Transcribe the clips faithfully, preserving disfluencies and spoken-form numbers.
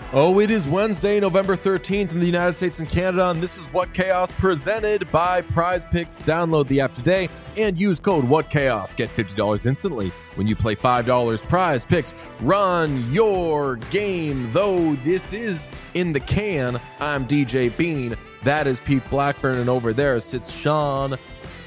Oh, it is Wednesday, November thirteenth in the United States and Canada, and this is What Chaos presented by Prize Picks. Download the app today and use code WhatChaos. Get fifty dollars instantly when you play five dollars. Prize Picks, run your game. Though this is in the can, I'm D J Bean. That is Pete Blackburn, and over there sits Sean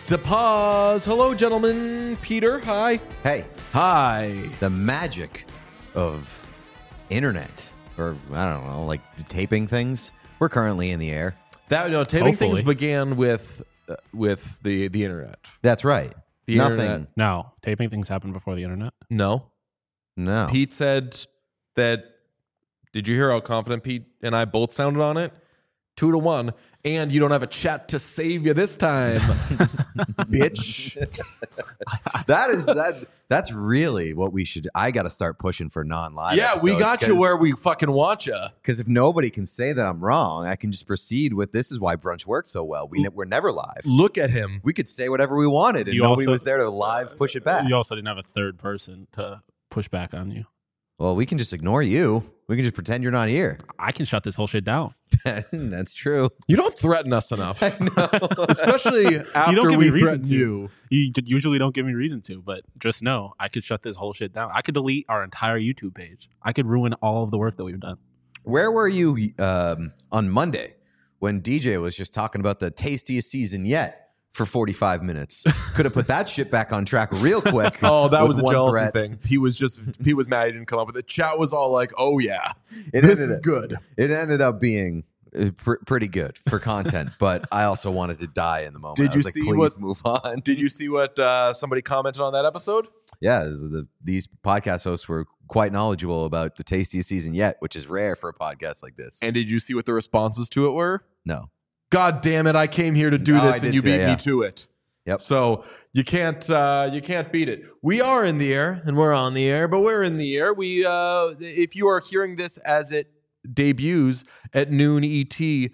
DePaz. Hello, gentlemen. Peter, hi. Hey. Hi. The magic of internet. Or, I don't know, like taping things. We're currently in the air. That you know, taping Hopefully. things began with uh, with the the internet. That's right. The Nothing. internet. No, taping things happen before the internet. No. No. Pete said that. Did you hear how confident Pete and I both sounded on it? Two to one. And you don't have a chat to save you this time, bitch. that is that. That's really what we should. I got to start pushing for non-live. Yeah, we got you where we fucking want you. Because if nobody can say that I'm wrong, I can just proceed with this is why brunch works so well. We ne- we're never live. Look at him. We could say whatever we wanted, and You nobody also- was there to live push it back. You also didn't have a third person to push back on you. Well, we can just ignore you. We can just pretend you're not here. I can shut this whole shit down. That's true. You don't threaten us enough, No. especially after you don't give we me reason threaten to. you. You d- usually don't give me reason to, but just know I could shut this whole shit down. I could delete our entire YouTube page. I could ruin all of the work that we've done. Where were you um, on Monday when D J was just talking about the tastiest season yet for forty-five minutes? Could have put that shit back on track real quick. Oh, that with was a one jealousy threat. thing. He was just he was mad he didn't come up with it. Chat was all like, "Oh yeah, It this ended is up- good." It ended up being uh, pr- pretty good for content, but I also wanted to die in the moment. Did I you was like, see please what- move on? Did you see what uh, somebody commented on that episode? Yeah, it was the, these podcast hosts were quite knowledgeable about the tastiest season yet, which is rare for a podcast like this. And did you see what the responses to it were? No. God damn it! I came here to do No, I this, did and you say, beat yeah. me to it. Yep. So you can't uh, you can't beat it. We are in the air, and we're on the air, but we're in the air. We uh, if you are hearing this as it debuts at noon E T,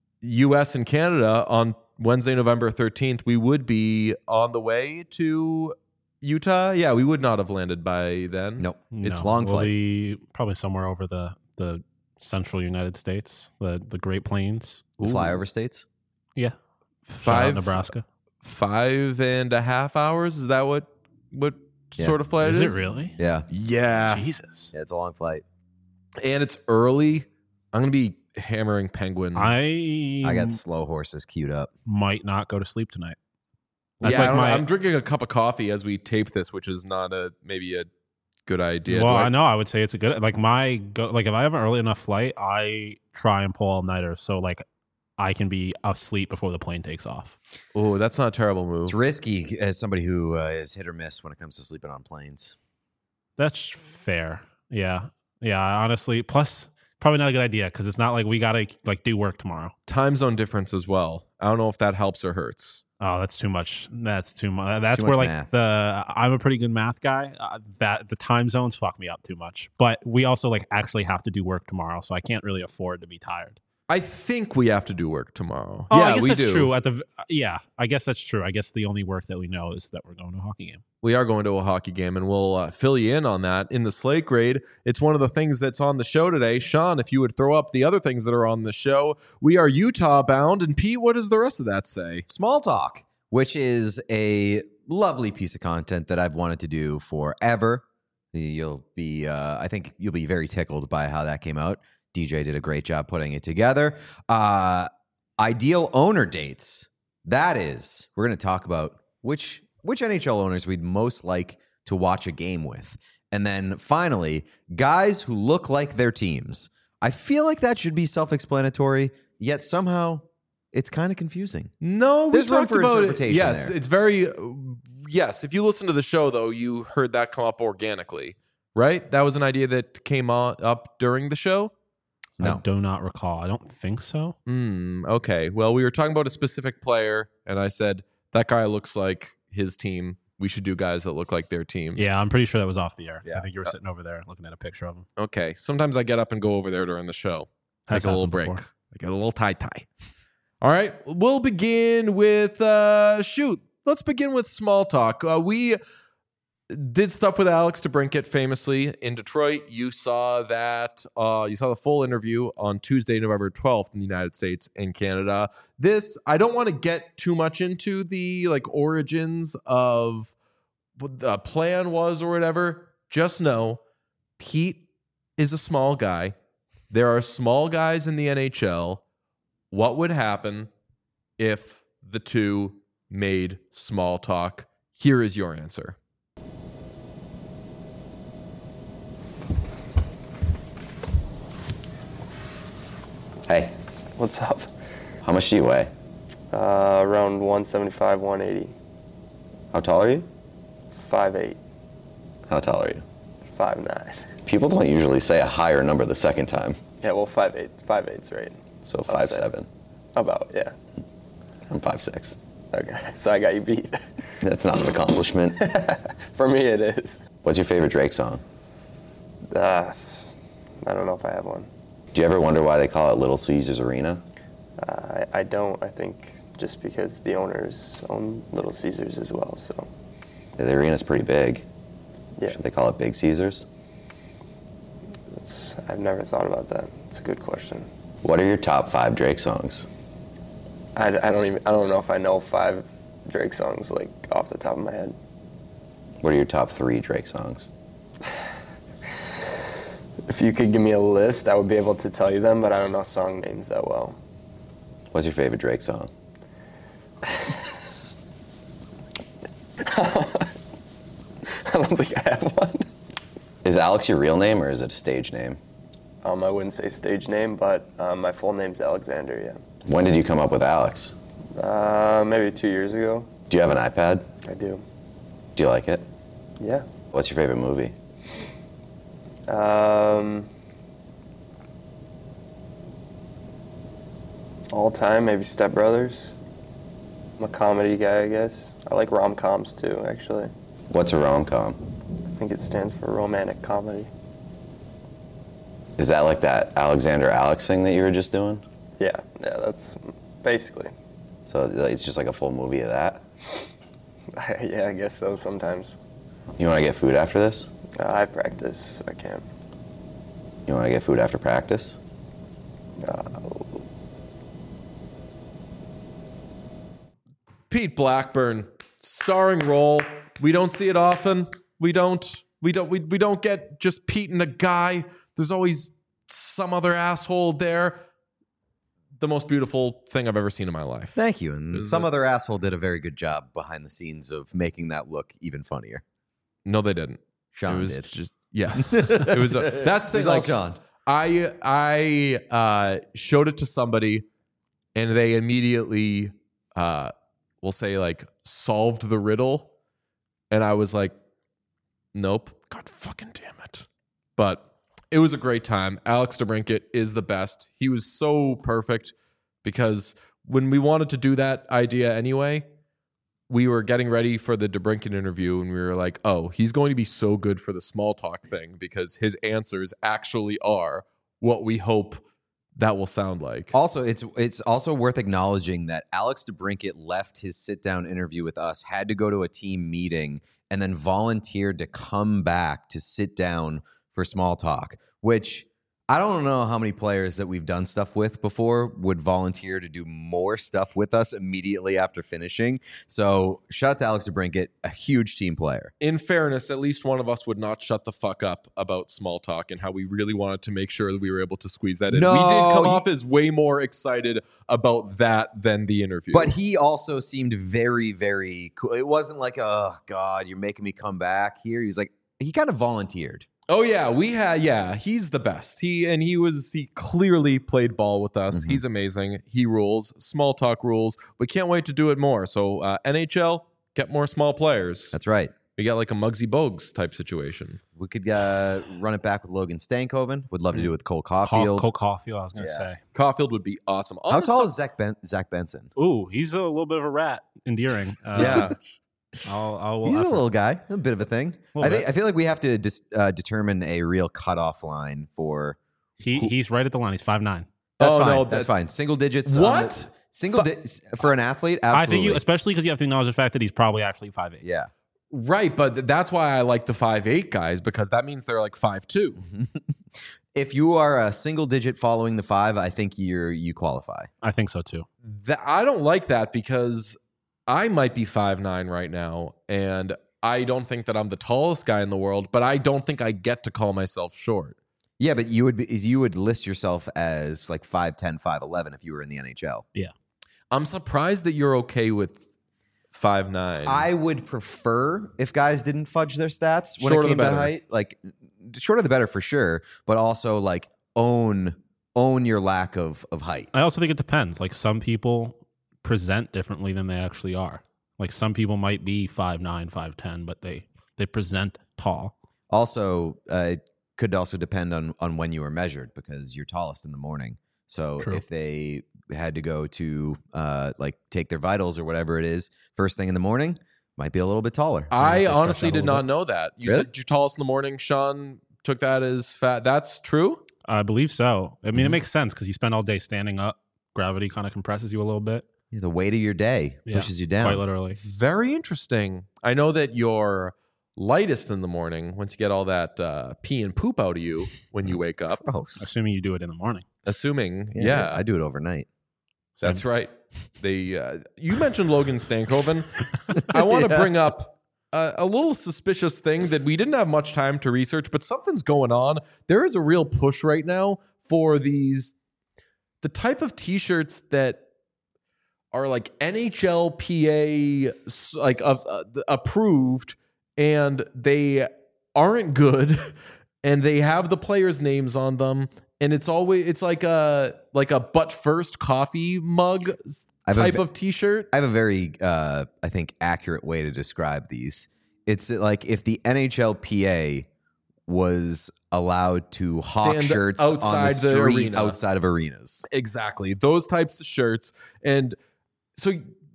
U S and Canada on Wednesday, November thirteenth, we would be on the way to Utah. Yeah, we would not have landed by then. Nope. It's No, long we'll flight. be probably somewhere over the, the central United States, the, the Great Plains. The flyover states? Yeah. Shout out Five Nebraska. five and a half hours. Is that what what Yeah. sort of flight Is it it is? really? Yeah. Yeah. Jesus. Yeah, it's a long flight. And it's early. I'm gonna be hammering Penguin. I I got slow horses queued up. might not go to sleep tonight. That's yeah, I like don't- my. I'm drinking a cup of coffee as we tape this, which is not a maybe a good idea. well, Do I, know. I would say it's a good. Like my go. Like if I have an early enough flight, I try and pull all nighters so like I can be asleep before the plane takes off. Oh, that's not a terrible move. It's risky as somebody who uh, is hit or miss when it comes to sleeping on planes. That's fair. Yeah. Yeah. Honestly, plus probably not a good idea because it's not like we gotta like do work tomorrow. Time zone difference as well. I don't know if that helps or hurts. Oh, that's too much. That's too much. That's Too where much like math. the I'm a pretty good math guy. Uh, that the time zones fuck me up too much. But we also like actually have to do work tomorrow, so I can't really afford to be tired. I think we have to do work tomorrow. Oh, yeah, I guess we that's do. true. At the yeah, I guess that's true. I guess the only work that we know is that we're going to a hockey game. We are going to a hockey game, and we'll uh, fill you in on that in the Slate Grade. It's one of the things that's on the show today. Sean, if you would throw up the other things that are on the show. We are Utah bound, and Pete, what does the rest of that say? Small Talk, which is a lovely piece of content that I've wanted to do forever. You'll be, uh, I think you'll be very tickled by how that came out. D J did a great job putting it together. Uh, ideal owner dates. That is, we're going to talk about which which N H L owners we'd most like to watch a game with. And then finally, guys who look like their teams. I feel like that should be self-explanatory, yet somehow it's kind of confusing. No, we There's room talked for about interpretation it. Yes, there. it's very. Yes, if you listen to the show, though, you heard that come up organically, right? That was an idea that came on, up during the show. I No. do not recall. I don't think so. Hmm. Okay. Well, we were talking about a specific player, and I said that guy looks like his team. We should do guys that look like their teams. Yeah, I'm pretty sure that was off the air. 'Cause Yeah. I think you were sitting over there looking at a picture of him. Okay. Sometimes I get up and go over there during the show. Take Has a little happened break. before. I get a little tie tie. All right. We'll begin with uh shoot. Let's begin with small talk. Uh, we did stuff with Alex DeBrincat famously in Detroit. You saw that. Uh, you saw the full interview on Tuesday, November twelfth in the United States and Canada. This, I don't want to get too much into the like origins of what the plan was or whatever. Just know Pete is a small guy. There are small guys in the N H L. What would happen if the two made small talk? Here is your answer. Hey, What's up? how much do you weigh? Uh, around one seventy-five, one eighty. How tall are you? five eight, How tall are you? five nine. People don't usually say a higher number the second time. Yeah, well, five eight. five eight's right. So I'll five say. seven. About, yeah. I'm five six. Okay, so I got you beat. That's not an accomplishment. For me, it is. What's your favorite Drake song? Uh, I don't know if I have one. Do you ever wonder why they call it Little Caesars Arena? Uh, I, I don't. I think just because the owners own Little Caesars as well, so. The arena's pretty big. Yeah, Should they call it Big Caesars? it's, I've never thought about that. It's a good question. What are your top five Drake songs? I, I don't even. I don't know if I know five Drake songs like off the top of my head. What are your top three Drake songs? If you could give me a list, I would be able to tell you them, but I don't know song names that well. What's your favorite Drake song? I don't think I have one. Is Alex your real name or is it a stage name? Um, I wouldn't say stage name, but um, my full name's Alexander, yeah. When did you come up with Alex? Uh, maybe two years ago. Do you have an iPad? I do. Do you like it? Yeah. What's your favorite movie? Um, all time, maybe Step Brothers. I'm a comedy guy, I guess. I like rom-coms too, actually. What's a rom-com? I think it stands for romantic comedy. Is that like that Alexander Alex thing that you were just doing? Yeah, yeah, that's basically. So it's just like a full movie of that? Yeah, I guess so sometimes. You want to get food after this? Uh, I practice if I can. You want to get food after practice? Uh, Pete Blackburn, starring role. We don't see it often. We don't. We don't. We, we don't get just Pete and a guy. There's always some other asshole there. The most beautiful thing I've ever seen in my life. Thank you. And Is some it- other asshole did a very good job behind the scenes of making that look even funnier. No, they didn't. Sean it was did. just yes. It was. A, that's the thing. He's all Like, Sean. I I uh, showed it to somebody, and they immediately, uh, we'll say, like solved the riddle, and I was like, "Nope, God fucking damn it!" But it was a great time. Alex DeBrincat is the best. He was so perfect because when we wanted to do that idea anyway, we were getting ready for the DeBrincat interview, and we were like, "Oh, he's going to be so good for the small talk thing because his answers actually are what we hope that will sound like." Also, it's it's also worth acknowledging that Alex DeBrincat left his sit down interview with us, had to go to a team meeting, and then volunteered to come back to sit down for small talk, which I don't know how many players that we've done stuff with before would volunteer to do more stuff with us immediately after finishing. So shout out to Alex DeBrincat, a huge team player. In fairness, at least one of us would not shut the fuck up about small talk and how we really wanted to make sure that we were able to squeeze that in. No, we did come he- off as way more excited about that than the interview. But he also seemed very, very cool. It wasn't like, oh, God, you're making me come back here. He was like, he kind of volunteered. Oh yeah, we had yeah, he's the best. He and he was he clearly played ball with us. Mm-hmm. He's amazing. He rules. Small talk rules. We can't wait to do it more. So uh, N H L, get more small players. That's right. We got like a Muggsy Bogues type situation. We could uh, run it back with Logan Stankoven. Would love to do it with Cole Col- Caulfield. Cole Caulfield, I was going to Yeah. say. Caulfield would be awesome. On How the tall su- is Zach, ben- Zach Benson? Ooh, he's a little bit of a rat. Endearing. Uh, Yeah. I'll, I'll, He's a I'll- little guy, a bit of a thing. Little I think. bit. I feel like we have to dis- uh, determine a real cutoff line for. He, he's right at the line. He's five nine. That's Oh, fine. no, that's, that's- fine. Single digits. on What? the- single di- for an athlete? Absolutely. I think you, especially because you have to acknowledge the fact that he's probably actually five eight. yeah. Right, but that's why I like the five eight guys, because that means they're like five two. If you are a single digit following the five, I think you're you qualify. I think so too. That, I don't like that because I might be five nine right now, and I don't think that I'm the tallest guy in the world, but I don't think I get to call myself short. Yeah, but you would be, you would list yourself as like five ten, five eleven if you were in the N H L. Yeah. I'm surprised that you're okay with five nine. I would prefer if guys didn't fudge their stats when Shorter it the came to better. height. Like shorter the better for sure, but also like own own your lack of of height. I also think it depends. Like some people present differently than they actually are. Like some people might be five nine, five ten, but they they present tall. Also, uh, it could also depend on on when you were measured because you're tallest in the morning. So True. if they had to go to uh, like take their vitals or whatever it is first thing in the morning, might be a little bit taller. I stretch honestly out a did little not bit. know that. You Really? said you're tallest in the morning. Sean took that as fat. That's true? I believe so. I mean, Mhm. it makes sense because you spend all day standing up. Gravity kind of compresses you a little bit. Yeah, the weight of your day Yeah, pushes you down. Quite literally. Very interesting. I know that you're lightest in the morning once you get all that uh, pee and poop out of you when you wake up. Gross. Assuming you do it in the morning. Assuming, Yeah, yeah, I do it overnight. that's right. They, uh, you mentioned Logan Stankoven. I want to Yeah. bring up a, a little suspicious thing that we didn't have much time to research, but something's going on. There is a real push right now for these, the type of t-shirts that are like N H L P A s- like of uh, approved, and they aren't good, and they have the players' names on them, and it's always it's like a like a butt first coffee mug s- I have a type ve- of t-shirt. I have a very, uh, I think, accurate way to describe these. It's like if the N H L P A was allowed to hawk Stand shirts on outside the the street arena. outside of arenas. Exactly. Those types of shirts. And so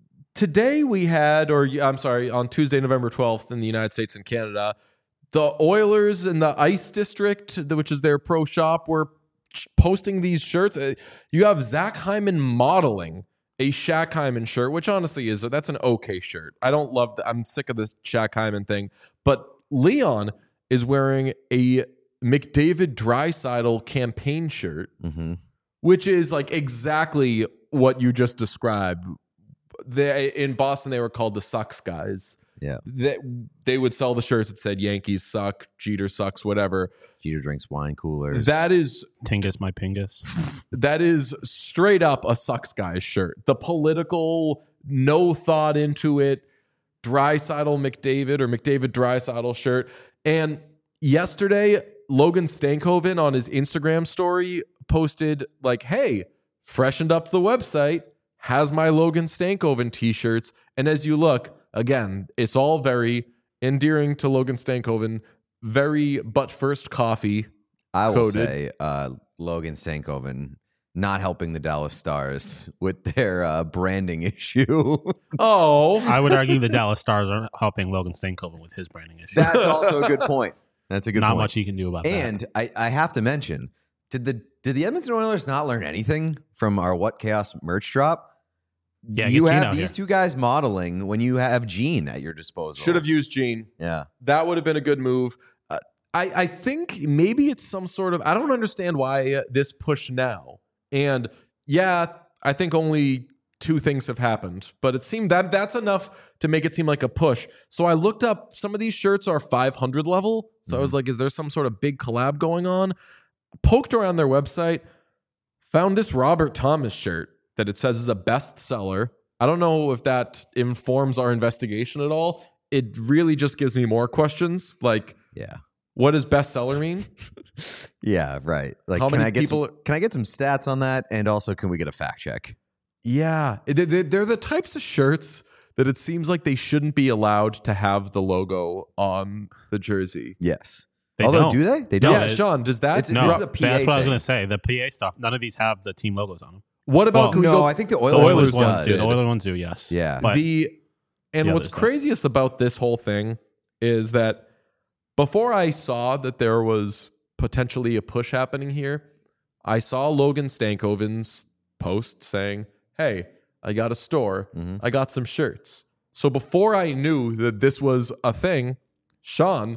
today we had, or I'm sorry, on Tuesday, November twelfth in the United States and Canada, the Oilers in the Ice District, which is their pro shop, were posting these shirts. Uh, You have Zach Hyman modeling a Shaq Hyman shirt, which honestly is, that's an okay shirt. I don't love the, I'm sick of this Shaq Hyman thing. But Leon is wearing a McDavid Draisaitl campaign shirt, Mm-hmm. which is like exactly what you just described. They, in Boston, they were called the Sucks guys. Yeah. They, they would sell the shirts that said Yankees suck, Jeter sucks, whatever. Jeter drinks wine coolers. That is Tingus, my pingus. that is straight up a Sucks guys shirt. The political, no thought into it, Draisaitl McDavid or McDavid Draisaitl shirt. And yesterday, Logan Stankoven on his Instagram story posted like, hey, freshened up the website, has my Logan Stankoven t-shirts. And as you look, again, it's all very endearing to Logan Stankoven, very but first coffee. I will coded. say uh, Logan Stankoven not helping the Dallas Stars with their uh, branding issue. Oh, I would argue the Dallas Stars are helping Logan Stankoven with his branding issue. That's also a good point. That's a good Not point. much he can do about that. And I, I have to mention, did the did the Edmonton Oilers not learn anything from our What Chaos merch drop? Yeah, you get Gene have out these here. two guys modeling when you have Gene at your disposal. should have used Gene. Yeah. That would have been a good move. Uh, I, I think maybe it's some sort of, I don't understand why uh, this push now. And yeah, I think only two things have happened, but it seemed that that's enough to make it seem like a push. So I looked up, some of these shirts are five hundred level. So I was like, is there some sort of big collab going on? Poked around their website, found this Robert Thomas shirt that it says is a bestseller. I don't know if that informs our investigation at all. It really just gives me more questions. Like, Yeah. what does bestseller mean? Yeah, right. Like, How can many I get people- some, can I get some stats on that? And also, can we get a fact check? Yeah, they- they- they're the types of shirts that it seems like they shouldn't be allowed to have the logo on the jersey. Yes. They Although, don't. do they? They No, don't. yeah, it- Sean, does that? It's- No, this is a P A that's what I was thing. going to say. The P A stuff, none of these have the team logos on them. what about well, can we no, go I think the The Oilers, Oilers one ones does. do. The Oilers ones do, yes. Yeah. But the and the what's other stuff. craziest about this whole thing is that before I saw that there was potentially a push happening here, I saw Logan Stankoven's post saying, "Hey, I got a store. Mhm. I got some shirts." So before I knew that this was a thing, Sean,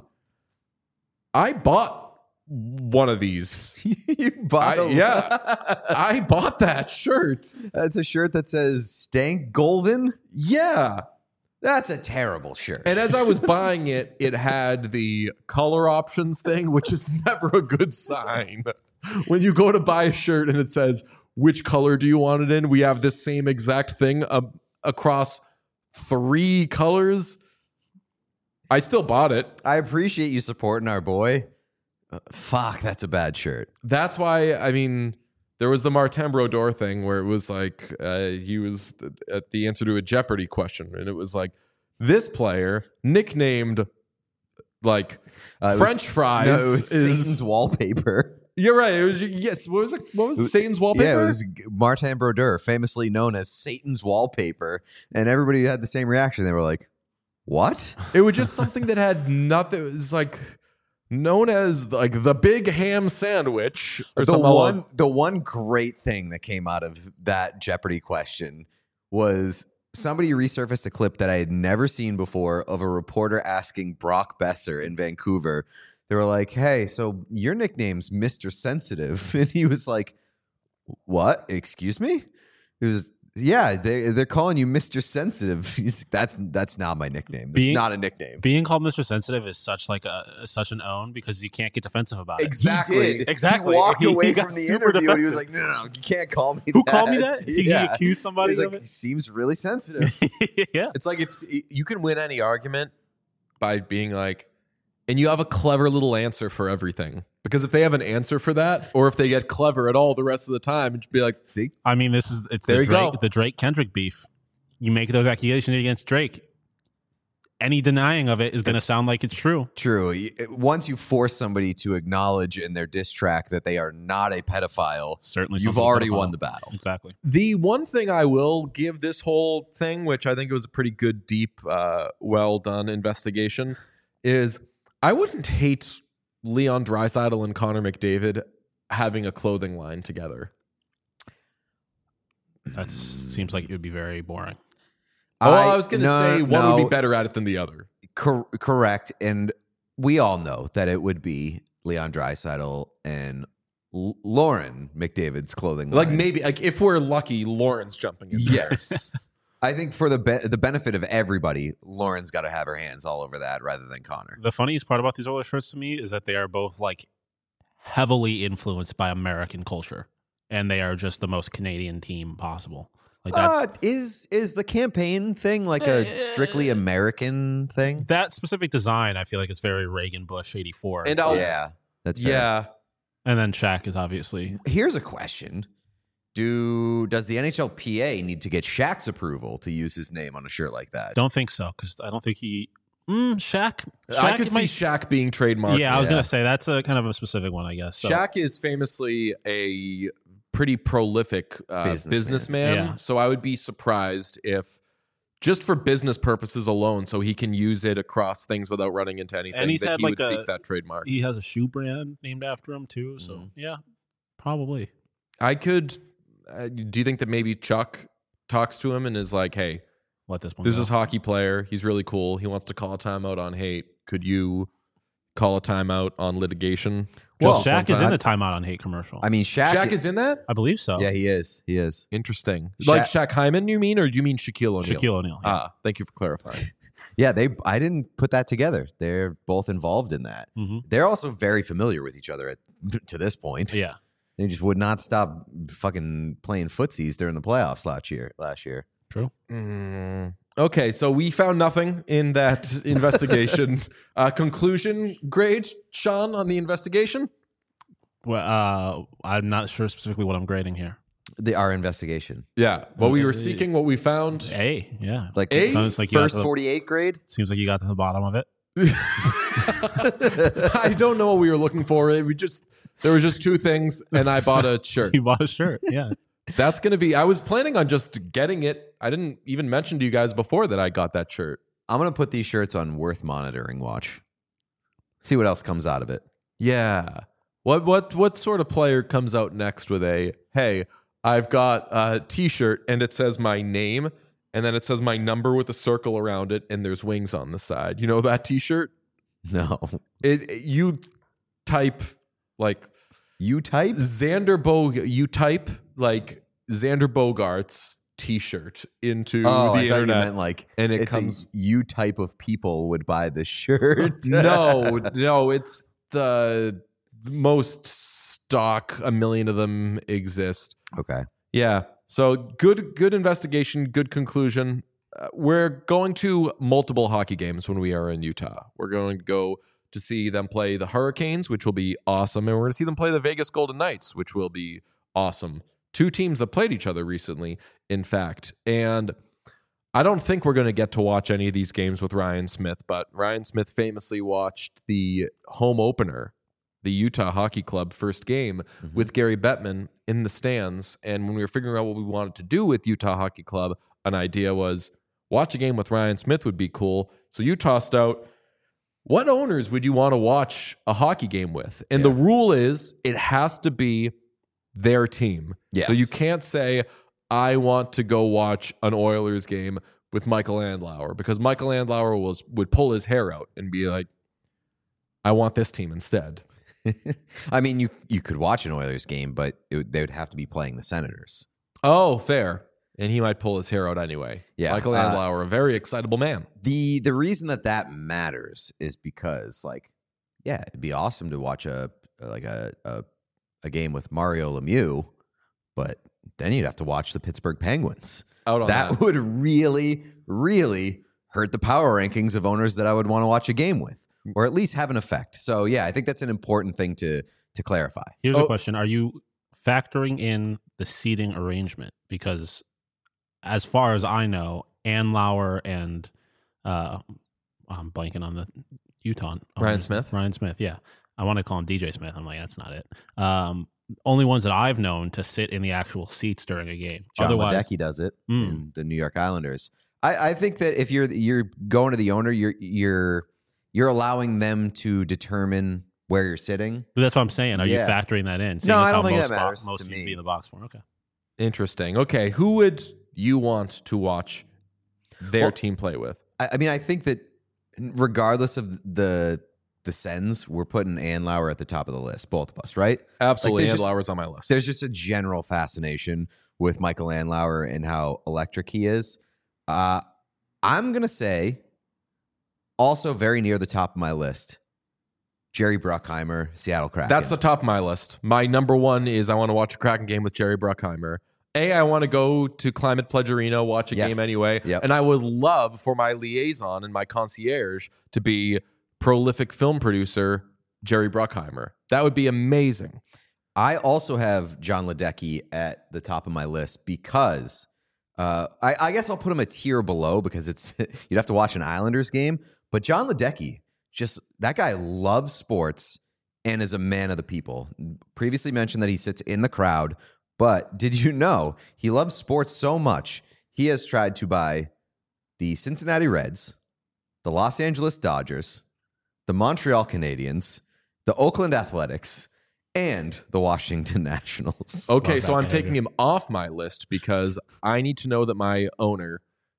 I bought one of these. You bought I, a- yeah, I bought that shirt. That's a shirt that says Stank Golvin. Yeah. That's a terrible shirt. And as I was buying it, it had the color options thing, which is never a good sign. When you go to buy a shirt and it says, which color do you want it in? We have this same exact thing uh, across three colors. I still bought it. I appreciate you supporting our boy. Uh, fuck, that's a bad shirt. That's why, I mean, there was the Martin Brodeur thing where it was like, uh, he was th- at the answer to a Jeopardy question. And it was like, this player nicknamed like Uh, it was- French fries No, it was is Satan's wallpaper. You're right. It was yes. What was it? What was it? Satan's wallpaper? Yeah, it was Martin Brodeur, famously known as Satan's wallpaper, and everybody had the same reaction. They were like, "What?" It was just something that had nothing. It was like known as like the big ham sandwich or The something. one, the one great thing that came out of that Jeopardy question was somebody resurfaced a clip that I had never seen before of a reporter asking Brock Besser in Vancouver. They were like, "Hey, so your nickname's Mister Sensitive," and he was like, "What? Excuse me?" It was, yeah, they they're calling you Mister Sensitive. He's like, that's that's not my nickname. That's Being- not a nickname. Being called Mister Sensitive is such like a such an own because you can't get defensive about it. Exactly. He did. Exactly. He walked He- he away got from the super interview and he was defensive. like, "No, no, no, you can't call me Who that." called me that? He, Yeah. he accused somebody He's of like, it. "He seems really sensitive." Yeah. It's like if you can win any argument by being like, and you have a clever little answer for everything. Because if they have an answer for that, or if they get clever at all the rest of the time, it'd be like, See? I mean, this is it's There the you Drake go. the Drake Kendrick beef. You make those accusations against Drake. Any denying of it is going to sound like it's true. True. Y- Once you force somebody to acknowledge in their diss track that they are not a pedophile, Certainly, you've something already pedophile. won the battle. Exactly. the one thing I will give this whole thing, which I think it was a pretty good, deep, uh, well done investigation, is I wouldn't hate Leon Draisaitl and Connor McDavid having a clothing line together. That seems like it would be very boring. Oh, I, was going to no, say one no, would be better at it than the other. cor- correct. And we all know that it would be Leon Draisaitl and L- Lauren McDavid's clothing line. Like maybe, like if we're lucky, Lauren's jumping in there. Yes. I think for the be- the benefit of everybody, Lauren's got to have her hands all over that rather than Connor. The funniest part about these Oilers shirts to me is that they are both like heavily influenced by American culture, and they are just the most Canadian team possible. Like that's Uh, is is the campaign thing like a strictly American thing? that specific design. I feel like it's very Reagan Bush eighty-four, And I'll- Yeah, that's fair. Yeah. and then Shaq is obviously Here's a question: Do does the N H L P A need to get Shaq's approval to use his name on a shirt like that? don't think so because I don't think he mm, Shaq. Shaq I could might- see Shaq being trademarked. Yeah, I was Yeah. gonna say that's a kind of a specific one, I guess. So. Shaq is famously a pretty prolific uh, Businessman. businessman. Yeah. So I would be surprised if, just for business purposes alone, so he can use it across things without running into anything, And he's that had he like would a- seek that trademark. He has a shoe brand named after him too. So Mhm. yeah, probably. I could. Uh, do you think that maybe Chuck talks to him and is like, "Hey, Let this one. there's go. this hockey player. He's really cool. He wants to call a timeout on hate. Could you call a timeout on litigation?" Well, Just one Shaq is time? in the timeout on hate commercial. I mean, Shaq. Shaq is in that. I believe so. Yeah, he is. He is. Interesting. Sha- Like Shaq Hyman, you mean, or do you mean Shaquille O'Neal? Shaquille O'Neal. yeah. Ah, thank you for clarifying. Yeah, they. I didn't put that together. They're both involved in that. Mhm. They're also very familiar with each other at, to this point. Yeah. They just would not stop fucking playing footsies during the playoffs last year. Last year. True. Mm, okay, so we found nothing in that investigation. Uh, conclusion grade, Sean, on the investigation? Well, uh, I'm not sure specifically what I'm grading here. The our investigation, Yeah. What we were Uh, seeking, what we found. A. Yeah. like A? Sounds like you got first to the- forty-eight grade. Seems like you got to the bottom of it. I don't know what we were looking for. We just there were just two things, and I bought a shirt. You bought a shirt. Yeah. That's gonna be. I was planning on just getting it. I didn't even mention to you guys before that I got that shirt. I'm gonna put these shirts on worth monitoring watch. See what else comes out of it. Yeah. What what what sort of player comes out next with a hey? I've got a T-shirt and it says my name and then it says my number with a circle around it, and there's wings on the side. You know that T-shirt? No. It, it- you type like You type? Xander Bog. You type like Xander Bogarts T-shirt into Oh, the I thought internet, you meant like and it it's comes. a you type of people would buy this shirt. no, no, it's the most stock. A million of them exist. Okay. Yeah. So good, good investigation. Good conclusion. Uh, we're going to multiple hockey games when we are in Utah. We're going to go to see them play the Hurricanes, which will be awesome, and we're going to see them play the Vegas Golden Knights, which will be awesome. Two teams that played each other recently, in fact. And I don't think we're going to get to watch any of these games with Ryan Smith, but Ryan Smith famously watched the home opener, the Utah Hockey Club first game Mm-hmm. with Gary Bettman in the stands. And when we were figuring out what we wanted to do with Utah Hockey Club, an idea was watch a game with Ryan Smith would be cool. So you tossed out, what owners would you want to watch a hockey game with? And Yeah. the rule is it has to be their team. Yes. So you can't say, I want to go watch an Oilers game with Michael Andlauer, because Michael Andlauer was, would pull his hair out and be like, I want this team instead. I mean, you you could watch an Oilers game, but it, would- they would have to be playing the Senators. Oh, fair. And he might pull his hair out anyway. Yeah, Michael uh, Andlauer, a very excitable man. The the reason that that matters is because, like, yeah, it'd be awesome to watch a like a a, a game with Mario Lemieux, but then you'd have to watch the Pittsburgh Penguins. Out on That that. would really, really hurt the power rankings of owners that I would want to watch a game with, or at least have an effect. So yeah, I think that's an important thing to to clarify. Here's Oh. a question: are you factoring in the seating arrangement? Because as far as I know, Andlauer and uh, I'm blanking on the Utah Ryan owner. Smith? Ryan Smith, yeah. I want to call him D J Smith. I'm like, that's not it. Um, only ones that I've known to sit in the actual seats during a game. John Otherwise, Ledecky does it Mm. in the New York Islanders. I, I think that if you're you're going to the owner, you're you're you're allowing them to determine where you're sitting. that's what I'm saying. Are Yeah. you factoring that in? No, Seeing as I how don't think most that bo- matters most to teams me. be in the box for. Okay. Interesting. Okay. Who would you want to watch their Well, team play with? I, I mean, I think that regardless of the the Sens, we're putting Andlauer at the top of the list, both of us, right? Absolutely. there's Like, just- Andlauer's on my list. There's just a general fascination with Michael Andlauer and how electric he is. Uh, I'm gonna say, also very near the top of my list, Jerry Bruckheimer, Seattle Kraken. That's the top of my list. My number one is I want to watch a Kraken game with Jerry Bruckheimer. A, I want to go to Climate Pledge Arena, watch a Yes. game anyway. Yep. And I would love for my liaison and my concierge to be prolific film producer Jerry Bruckheimer. That would be amazing. I also have John Ledecky at the top of my list because uh, I, I guess I'll put him a tier below because it's you'd have to watch an Islanders game. But John Ledecky, just that guy loves sports and is a man of the people. Previously mentioned that he sits in the crowd, but did you know he loves sports so much he has tried to buy the Cincinnati Reds, the Los Angeles Dodgers, the Montreal Canadiens, the Oakland Athletics, and the Washington Nationals. Okay, Love so that I'm behavior. taking him off my list because I need to know that my owner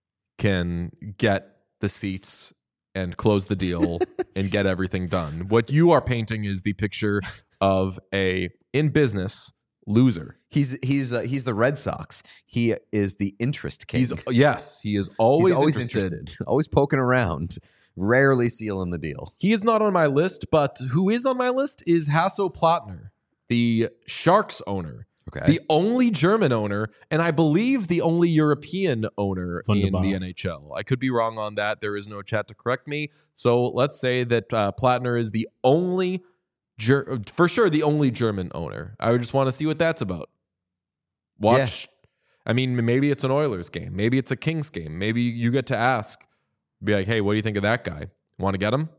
can get the seats and close the deal and get everything done. What you are painting is the picture of a in business loser. He's he's uh, he's the Red Sox. He is the interest king. He's yes, he is always, He's always interested. interested, always poking around, rarely sealing the deal. He is not on my list, but who is on my list is Hasso Plattner, the Sharks owner. Okay, The only German owner, and I believe the only European owner in Wunderbar. the N H L. I could be wrong on that. There is no chat to correct me. So let's say that uh, Plattner is the only, Ger- for sure, the only German owner. I would just want to see what that's about. Watch. I mean, maybe it's an Oilers game. Maybe it's a Kings game. Maybe you get to ask, be like, hey, what do you think of that guy? Want to get him?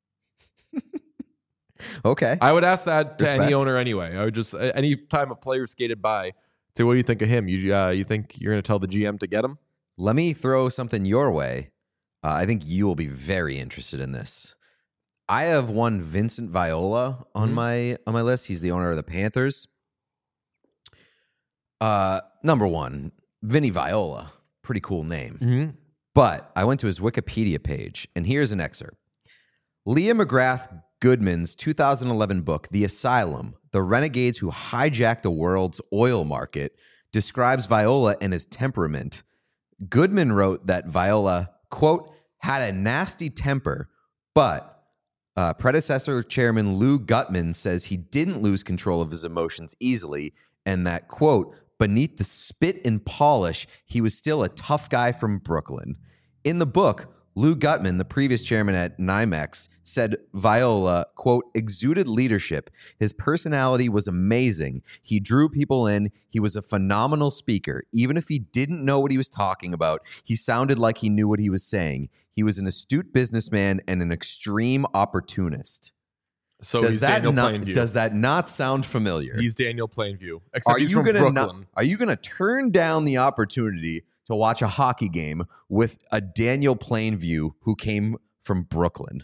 okay. I would ask that to any Respect. owner anyway. I would just any time a player skated by, say, "What do you think of him? You uh, you think you're going to tell the G M to get him?" Let me throw something your way. Uh, I think you will be very interested in this. I have one Vincent Viola on Mhm. my on my list. He's the owner of the Panthers. Uh, number one, Vinny Viola, pretty cool name. Mm-hmm. But I went to his Wikipedia page, and here's an excerpt. Leah McGrath Goodman's two thousand eleven book, The Asylum, The Renegades Who Hijacked the World's Oil Market, describes Viola and his temperament. Goodman wrote that Viola, quote, had a nasty temper, but uh, predecessor chairman Lou Gutman says he didn't lose control of his emotions easily, and that, quote, beneath the spit and polish, he was still a tough guy from Brooklyn. In the book, Lou Gutman, the previous chairman at NYMEX, said Viola, quote, exuded leadership. His personality was amazing. He drew people in. He was a phenomenal speaker. Even if he didn't know what he was talking about, he sounded like he knew what he was saying. He was an astute businessman and an extreme opportunist. So does he's that Daniel not, Plainview. Does that not sound familiar? He's Daniel Plainview. Except Are he's you from gonna Brooklyn. not, are you gonna turn down the opportunity to watch a hockey game with a Daniel Plainview who came from Brooklyn?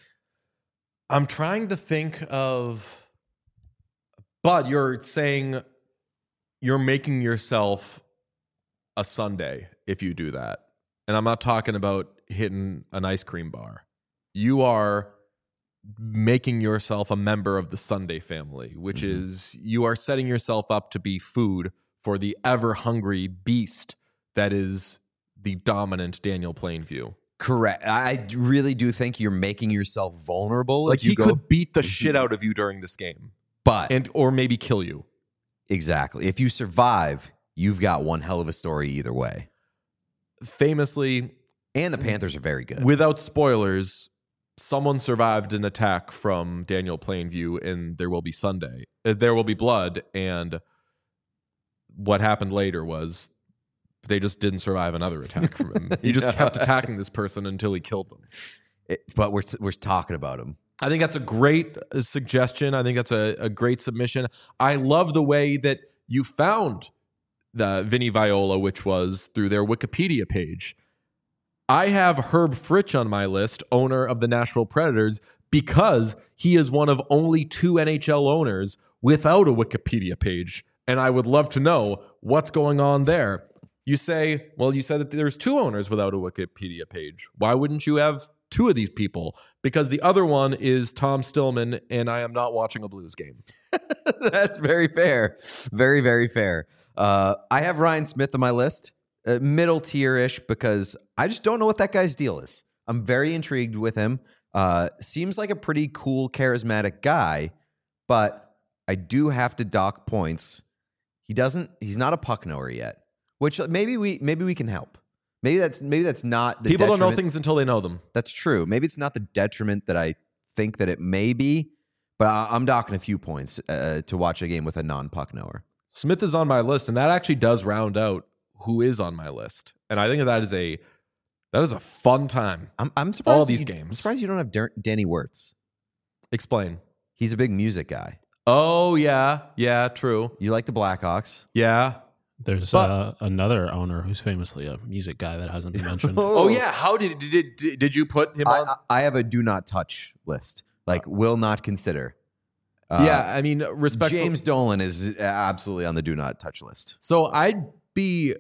I'm trying to think of, but you're saying you're making yourself a Sunday if you do that. And I'm not talking about hitting an ice cream bar. You are making yourself a member of the Sunday family, which mm-hmm. is you are setting yourself up to be food for the ever hungry beast that is the dominant Daniel Plainview. Correct. I really do think you're making yourself vulnerable. Like if you he go, could beat the shit out of you during this game, but and or maybe kill you. Exactly. If you survive, you've got one hell of a story either way. Famously, and the Panthers are very good. Without spoilers, someone survived an attack from Daniel Plainview in There Will Be Sunday. Uh, There Will Be Blood, and what happened later was they just didn't survive another attack from him. He just kept attacking this person until he killed them. It, but we're we're talking about him. I think that's a great uh, suggestion. I think that's a, a great submission. I love the way that you found the Vinny Viola, which was through their Wikipedia page. I have Herb Fritch on my list, owner of the Nashville Predators, because he is one of only two N H L owners without a Wikipedia page. And I would love to know what's going on there. You say, well, you said that there's two owners without a Wikipedia page. Why wouldn't you have two of these people? Because the other one is Tom Stillman, and I am not watching a Blues game. That's very fair. Very, very fair. Uh, I have Ryan Smith on my list, uh, middle tier-ish, because I just don't know what that guy's deal is. I'm very intrigued with him. Uh, seems like a pretty cool, charismatic guy, but I do have to dock points. He doesn't. He's not a puck knower yet. Which maybe we maybe we can help. Maybe that's maybe that's not the people detriment. don't know things until they know them. That's true. Maybe it's not the detriment that I think that it may be, but I, I'm docking a few points uh, to watch a game with a non-puck knower. Smith is on my list, and that actually does round out who is on my list. And I think that is a that is a fun time. I'm I'm surprised all these you, games. I'm surprised you don't have Der- Danny Wirtz. Explain. He's a big music guy. Oh yeah, yeah, true. You like the Blackhawks? Yeah. There's But- uh, another owner who's famously a music guy that hasn't been mentioned. Oh yeah. How did did did, did you put him I, on? I I have a do not touch list. Like will not consider. Uh, yeah, I mean, respect. James Dolan is absolutely on the do not touch list. So I'd be.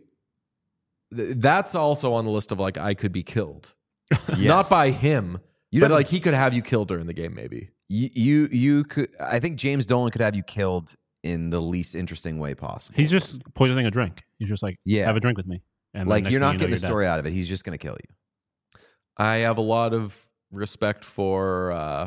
th- That's also on the list of like I could be killed, Yes. not by him, You'd but have to- like he could have you killed during the game, maybe. You, you you could. I think James Dolan could have you killed in the least interesting way possible. He's just poisoning a drink. He's just like, Yeah. have a drink with me. And then like next you're thing not you know, getting a you're dead. story out of it. He's just going to kill you. I have a lot of respect for uh,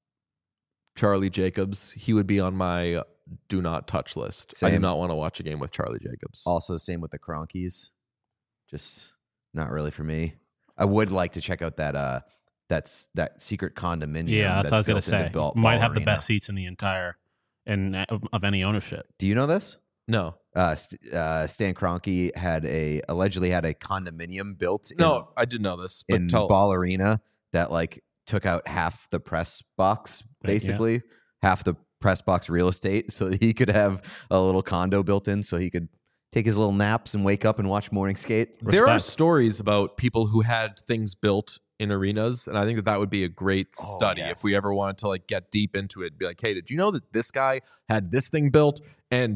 Charlie Jacobs. He would be on my do not touch list. I do Same. not want to watch a game with Charlie Jacobs. Also, same with the Cronkies. Just not really for me. I would like to check out that uh that's that secret condominium. Yeah, that's, what I was built gonna into say. Ball- Might Ball have the Arena. best seats in the entire and of, of any ownership. Do you know this? No, Uh, St- uh, Stan Kroenke had a allegedly had a condominium built in, no, I didn't know this. But in tell, Ball Arena that like took out half the press box, Right, yeah. basically half the press box real estate, so that he could have a little condo built in, so he could take his little naps and wake up and watch morning skate. there are Respect. stories about people who had things built in arenas, and I think that that would be a great Oh, study yes. if we ever wanted to like get deep into it. Be like, hey, did you know that this guy had this thing built? And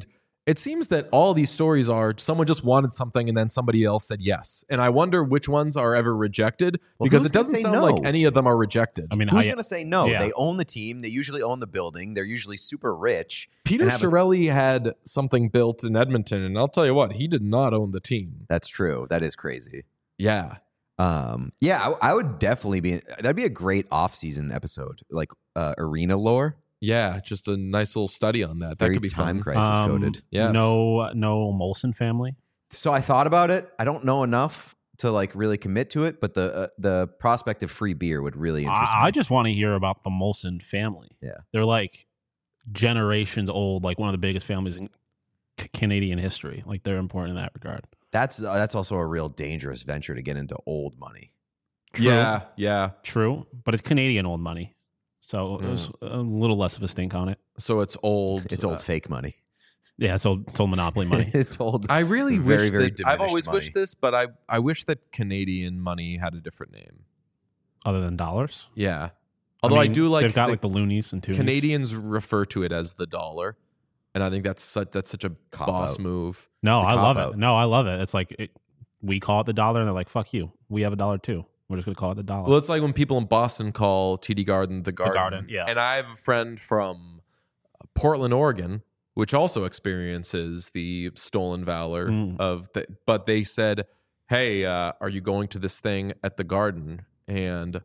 It seems that all these stories are someone just wanted something and then somebody else said yes. And I wonder which ones are ever rejected Well, because who's it gonna doesn't say sound no? like any of them are rejected. I mean, Who's I, going to say no? yeah. They own the team. They usually own the building. They're usually super rich. Peter and have a- Chiarelli had something built in Edmonton, and I'll tell you what, he did not own the team. That's true. That is crazy. Yeah. Um, yeah, I, I would definitely be. That'd be a great off-season episode, like uh, arena lore. Yeah, just a nice little study on that. That Very could be time fun. crisis um, coded. Yes. No, no Molson family. So I thought about it. I don't know enough to like really commit to it, but the uh, the prospect of free beer would really interest I, I me. just want to hear about the Molson family. Yeah. They're like generations old, like one of the biggest families in C- Canadian history. Like they're important in that regard. That's uh, that's also a real dangerous venture to get into old money. True. Yeah, yeah. True, but it's Canadian old money. So Mm. there's a little less of a stink on it. So it's old. It's old uh, fake money. Yeah, it's old, it's old monopoly money. It's old. I really Very, wish very that I've diminished always money. wished this, but I I wish that Canadian money had a different name. Other than dollars. Yeah. Although I, mean, do like they've got the like the loonies and toonies. Canadians refer to it as the dollar, and I think that's such that's such a Cop boss out. move. No, It's a I love cop-out. it. No, I love it. It's like it, we call it the dollar, and they're like, "Fuck you, we have a dollar too. We're just gonna call it the dollar." Well, it's like when people in Boston call T D Garden the Garden. Garden, yeah. And I have a friend from Portland, Oregon, which also experiences the stolen valor Mm. of the. But they said, "Hey, uh, are you going to this thing at the Garden?" And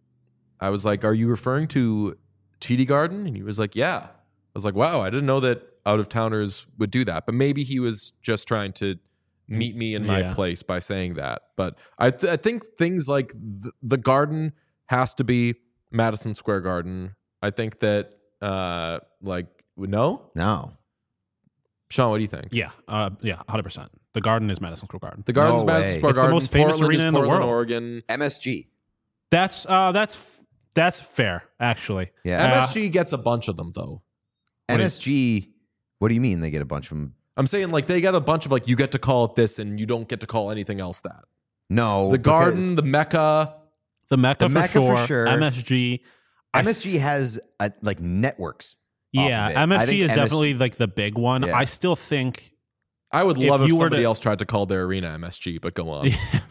I was like, "Are you referring to T D Garden?" And he was like, "Yeah." I was like, "Wow, I didn't know that out of towners would do that." But maybe he was just trying to meet me in my Yeah. place by saying that. But I, th- I think things like th- the Garden has to be Madison Square Garden. I think that, uh, like, no, No. Sean, what do you think? yeah, uh, yeah, one hundred percent. The Garden is Madison Square Garden. The Garden's No Madison way. Square It's the Garden. most famous Portland arena is in the Portland, world. Oregon. M S G. That's uh, that's that's fair, actually. Yeah. Uh, M S G gets a bunch of them though. What do you- M S G. What do you mean they get a bunch of them? I'm saying like they got a bunch of like you get to call it this and you don't get to call anything else that. No. The because Garden, the Mecca. The Mecca, The for, Mecca for sure, sure. M S G. I M S G has a, like networks. off Yeah, of it. I M S G think is M S G definitely like the big one. Yeah. I still think I would If love if, you were somebody to- else tried to call their arena M S G, but go on.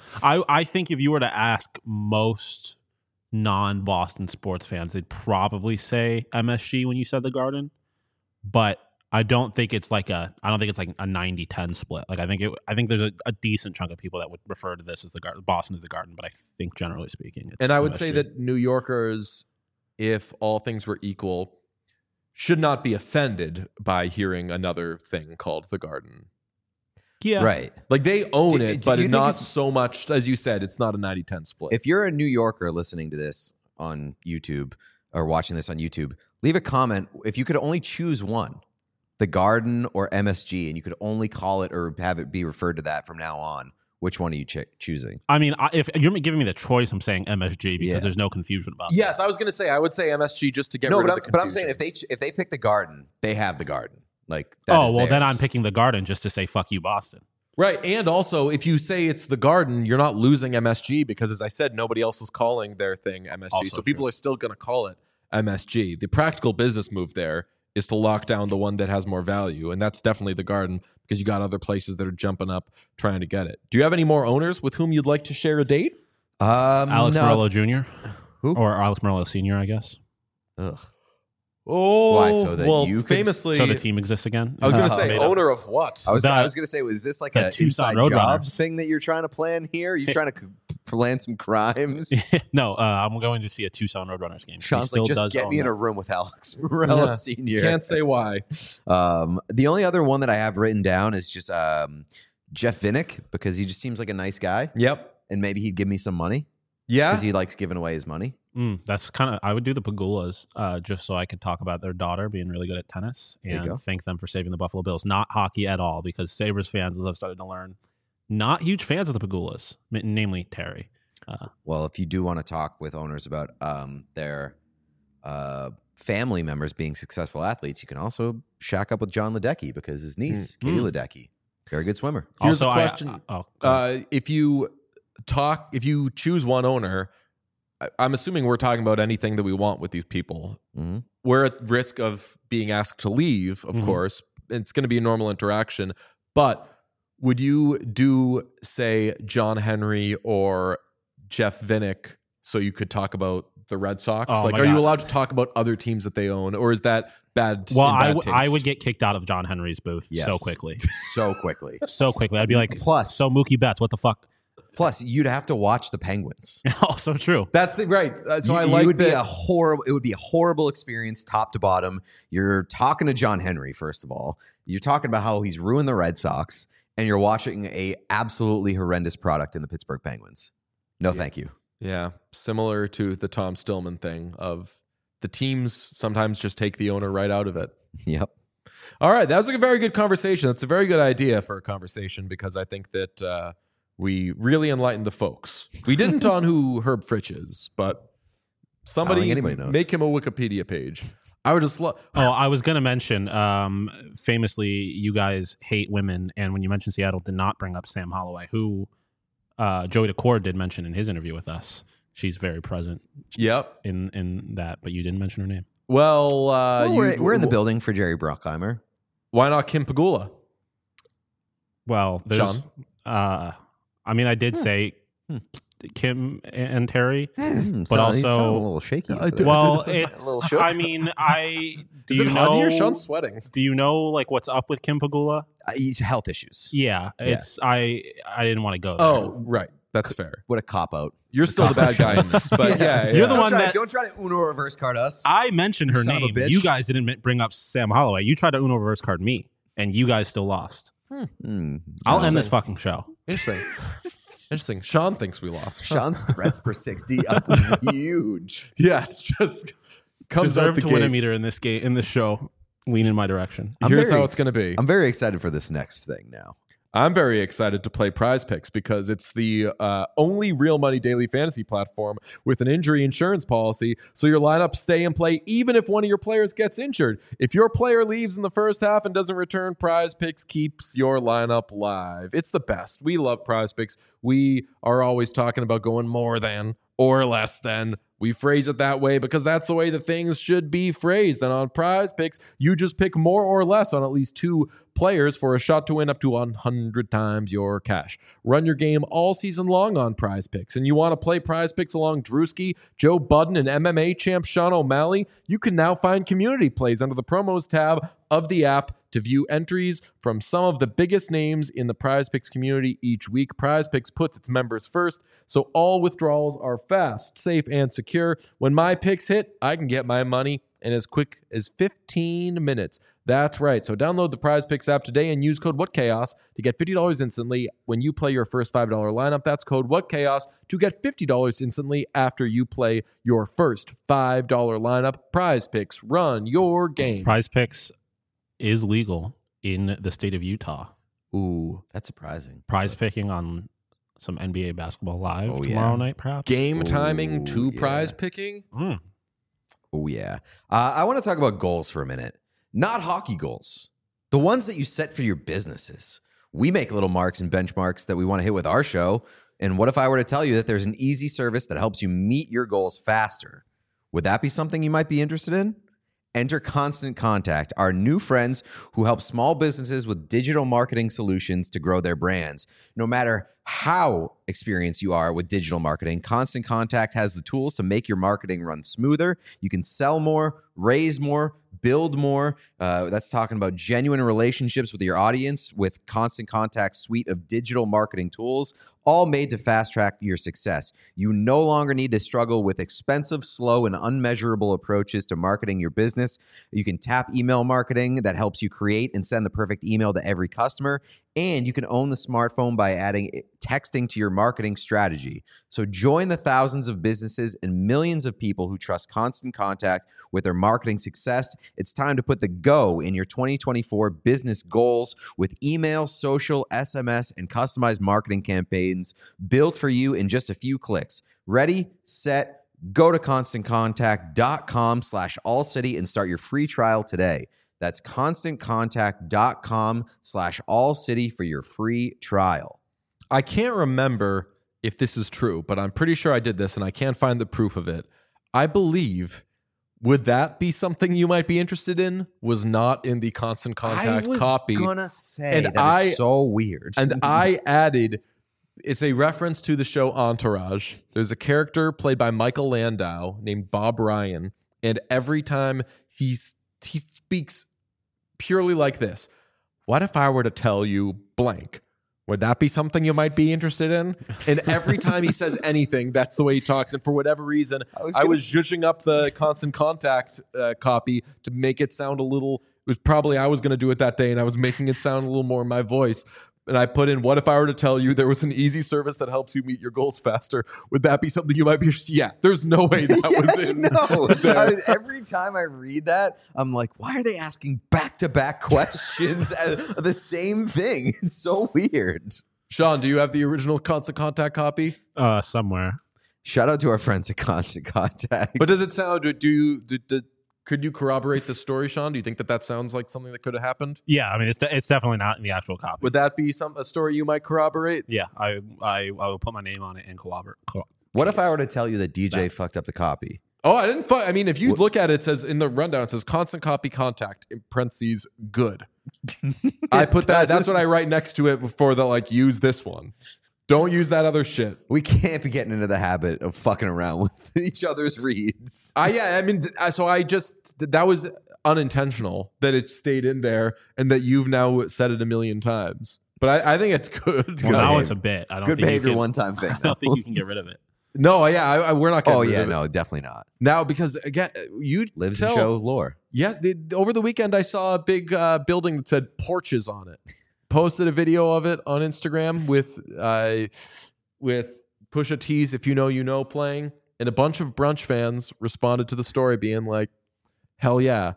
I I think if you were to ask most non-Boston sports fans, they'd probably say M S G when you said the Garden. But I don't think it's like a I don't think it's like a ninety ten split. Like I think it I think there's a, a decent chunk of people that would refer to this as the Garden, Boston as the Garden, but I think generally speaking it's And I would M S G. say that New Yorkers, if all things were equal, should not be offended by hearing another thing called the Garden. yeah. Right. Like they own Do- it, do but you think not if- so much as you said. It's not a ninety ten split. If you're a New Yorker listening to this on YouTube or watching this on YouTube, leave a comment. If you could only choose one, the Garden or M S G, and you could only call it or have it be referred to that from now on, which one are you ch- choosing? I mean, I, if you're giving me the choice, I'm saying M S G because Yeah. there's no confusion about yes, I was going to say I would say M S G just to get no, rid but of I'm, the but I'm confusion. saying if they ch- if they pick the Garden, they have the Garden. Like that. that Oh is well, then theirs. I'm picking the Garden just to say fuck you, Boston. Right. And also, if you say it's the Garden, you're not losing M S G because, as I said, nobody else is calling their thing M S G. Also so people true. are still going to call it M S G. The practical business move there is to lock down the one that has more value. And that's definitely the Garden because you got other places that are jumping up trying to get it. Do you have any more owners with whom you'd like to share a date? Um, Alex no. Morello Junior Who? or Alex Morello Senior, I guess. Ugh. Oh, Why, so that well, you could- famously, So the team exists again. I was going to Oh, say, Made up. owner of what? I was The- I was gonna say, was this like the a Tucson inside job Roadrunners. thing that you're trying to plan here? Are you trying to c- plan some crimes? no, uh, I'm going to see a Tucson Roadrunners game. He Sean's still like, just does get own me in that. a room with Alex Morello Yeah. Senior Can't say why. Um, the only other one that I have written down is just um, Jeff Vinnick because he just seems like a nice guy, Yep. and maybe he'd give me some money Yeah. because he likes giving away his money. Mm, that's kind of I would do the Pagulas uh, just so I could talk about their daughter being really good at tennis There you go. and thank them for saving the Buffalo Bills. Not hockey at all because Sabres fans, as I've started to learn, not huge fans of the Pagulas, m- namely Terry. Uh, Well, if you do want to talk with owners about um, their uh, family members being successful athletes, you can also shack up with John Ledecky because his niece, Katie Mm. Ledecky, very good swimmer. Here's also, a I- question. uh, oh, go ahead. Uh, if you talk, if you choose one owner, I- I'm assuming we're talking about anything that we want with these people. Mhm. We're at risk of being asked to leave, of Mhm. course. it's going to be a normal interaction. But would you do, say, John Henry or Jeff Vinnick so you could talk about the Red Sox? Oh, like, my are God. you allowed to talk about other teams that they own, or is that bad? Well, in bad I, w- I taste? would get kicked out of John Henry's booth Yes. so quickly. So quickly. So quickly. I'd be like, Plus- so Mookie Betts, what the fuck? Plus, you'd have to watch the Penguins. Also true. That's the right. Uh, so you, I like you would be that- a horrible. It would be a horrible experience, top to bottom. You're talking to John Henry, first of all. You're talking about how he's ruined the Red Sox, and you're watching a absolutely horrendous product in the Pittsburgh Penguins. No, thank you. Yeah, similar to the Tom Stillman thing of the teams sometimes just take the owner right out of it. Yep. All right, that was a very good conversation. That's a very good idea for a conversation because I think that uh, we really enlightened the folks. We didn't on who Herb Fritch is, but somebody think anybody knows. make him a Wikipedia page. I would just love. Oh, I was going to mention, um, famously, you guys hate women. And when you mentioned Seattle, did not bring up Sam Holloway, who uh, Joey DeCord did mention in his interview with us. She's very present Yep. in, in that, but you didn't mention her name. Well, uh, Well, you- we're, we're in the building for Jerry Bruckheimer. Why not Kim Pagula? Well, there's, Sean? uh, I mean, I did say Kim and Terry, Hmm, but so- you sound also, a little shaky. I for that. well, it's, little shook. I mean, I, do Is you it know, hot here? Sean's sweating. do you know like what's up with Kim Pagula? Uh, he's health issues. Yeah, it's, I, I didn't want to go there. Oh, right. That's fair. What a cop out. You're still the bad guy in this, but yeah, yeah. You're the Don't one try, that- don't try to Uno reverse card us. I mentioned her Son of a name. bitch. You guys didn't mi- bring up Sam Holloway. You tried to Uno reverse card me, and you guys still lost. Hmm. I'll end this fucking show. Interesting. Interesting. Sean thinks we lost. Sean's threats per sixty are huge. Yes, just comes out Deserve the to win a gate. meter in this game in this show. Lean in my direction. I'm Here's very how it's going to be. I'm very excited for this next thing now. I'm very excited to play Prize Picks because it's the uh, only real money daily fantasy platform with an injury insurance policy. So your lineups stay in play even if one of your players gets injured. If your player leaves in the first half and doesn't return, Prize Picks keeps your lineup live. It's the best. We love Prize Picks. We are always talking about going more than or less than. We phrase it that way because that's the way that things should be phrased. And on Prize Picks, you just pick more or less on at least two players for a shot to win up to one hundred times your cash. Run your game all season long on Prize Picks. And you want to play Prize Picks along Drewski, Joe Budden, and M M A champ Sean O'Malley? You can now find community plays under the promos tab of the app to view entries from some of the biggest names in the Prize Picks community each week. Prize Picks puts its members first, so all withdrawals are fast, safe, and secure. When my picks hit, I can get my money in as quick as fifteen minutes. That's right. So download the Prize Picks app today and use code WhatChaos to get fifty dollars instantly when you play your first five dollars lineup. That's code WhatChaos to get fifty dollars instantly after you play your first five dollars lineup. Prize Picks, run your game. Prize Picks is legal in the state of Utah. Ooh. That's surprising. Prize picking on some N B A basketball live Oh, tomorrow yeah. night, perhaps. Game timing Ooh, to yeah. prize picking? Mm. Oh, yeah. Uh, I want to talk about goals for a minute. Not hockey goals, the ones that you set for your businesses. We make little marks and benchmarks that we want to hit with our show. And what if I were to tell you that there's an easy service that helps you meet your goals faster? Would that be something you might be interested in? Enter Constant Contact, our new friends who help small businesses with digital marketing solutions to grow their brands. No matter how experienced you are with digital marketing, Constant Contact has the tools to make your marketing run smoother. You can sell more, raise more, build more. Uh, that's talking about genuine relationships with your audience with Constant Contact's suite of digital marketing tools, all made to fast track your success. You no longer need to struggle with expensive, slow, and unmeasurable approaches to marketing your business. You can tap email marketing that helps you create and send the perfect email to every customer. And you can own the smartphone by adding texting to your marketing strategy. So join the thousands of businesses and millions of people who trust Constant Contact with their marketing success. It's time to put the go in your twenty twenty-four business goals with email, social, S M S, and customized marketing campaigns built for you in just a few clicks. Ready, set, go to constantcontact.com slash allcity and start your free trial today. That's constantcontact.com slash allcity for your free trial. I can't remember if this is true, but I'm pretty sure I did this and I can't find the proof of it. I believe Would that be something you might be interested in? Was not in the Constant Contact I was copy. gonna say And that I- is so weird. And I added, it's a reference to the show Entourage. There's a character played by Michael Landau named Bob Ryan. And every time he's, he speaks purely like this. What if I were to tell you blank? Would that be something you might be interested in? And every time he says anything, that's the way he talks. And for whatever reason, I was I gonna was s- zhuzhing up the Constant Contact uh, copy to make it sound a little. It was probably I was going to do it that day, and I was making it sound a little more my voice. And I put in, what if I were to tell you there was an easy service that helps you meet your goals faster? Would that be something you might be interested in? Yeah, there's no way that was in No, there. every time I read that, I'm like, why are they asking back-to-back questions of the same thing? It's so weird. Sean, do you have the original Constant Contact copy? Uh, somewhere. Shout out to our friends at Constant Contact. But does it sound, do you, do, do, could you corroborate the story, Sean? Do you think that that sounds like something that could have happened? Yeah, I mean, it's de- it's definitely not in the actual copy. Would that be some a story you might corroborate? yeah, I, I I will put my name on it and corroborate. Co- what if I were to tell you that D J fucked up the copy? Oh, I didn't. Fu- I mean, if you look at it, it says in the rundown, it says constant copy contact in parentheses good. I put that. That's what I write next to it before the like use this one. Don't use that other shit. We can't be getting into the habit of fucking around with each other's reads. I yeah. I mean, th- I- so I just that was unintentional that it stayed in there and that you've now said it a million times. But I, I think it's good. well, now behavior. it's a bit. I don't Good think behavior, you can, one-time thing. I don't think you can get rid of it. No, yeah, I, I, we're not. Getting Oh rid yeah, of it. no, definitely not. Now because again, you Lives tell, and show lore. Yeah, the, over the weekend I saw a big uh, building that said porches on it. Posted a video of it on Instagram with uh, with Pusha T's "If You Know You Know" playing, and a bunch of brunch fans responded to the story being like, "Hell yeah!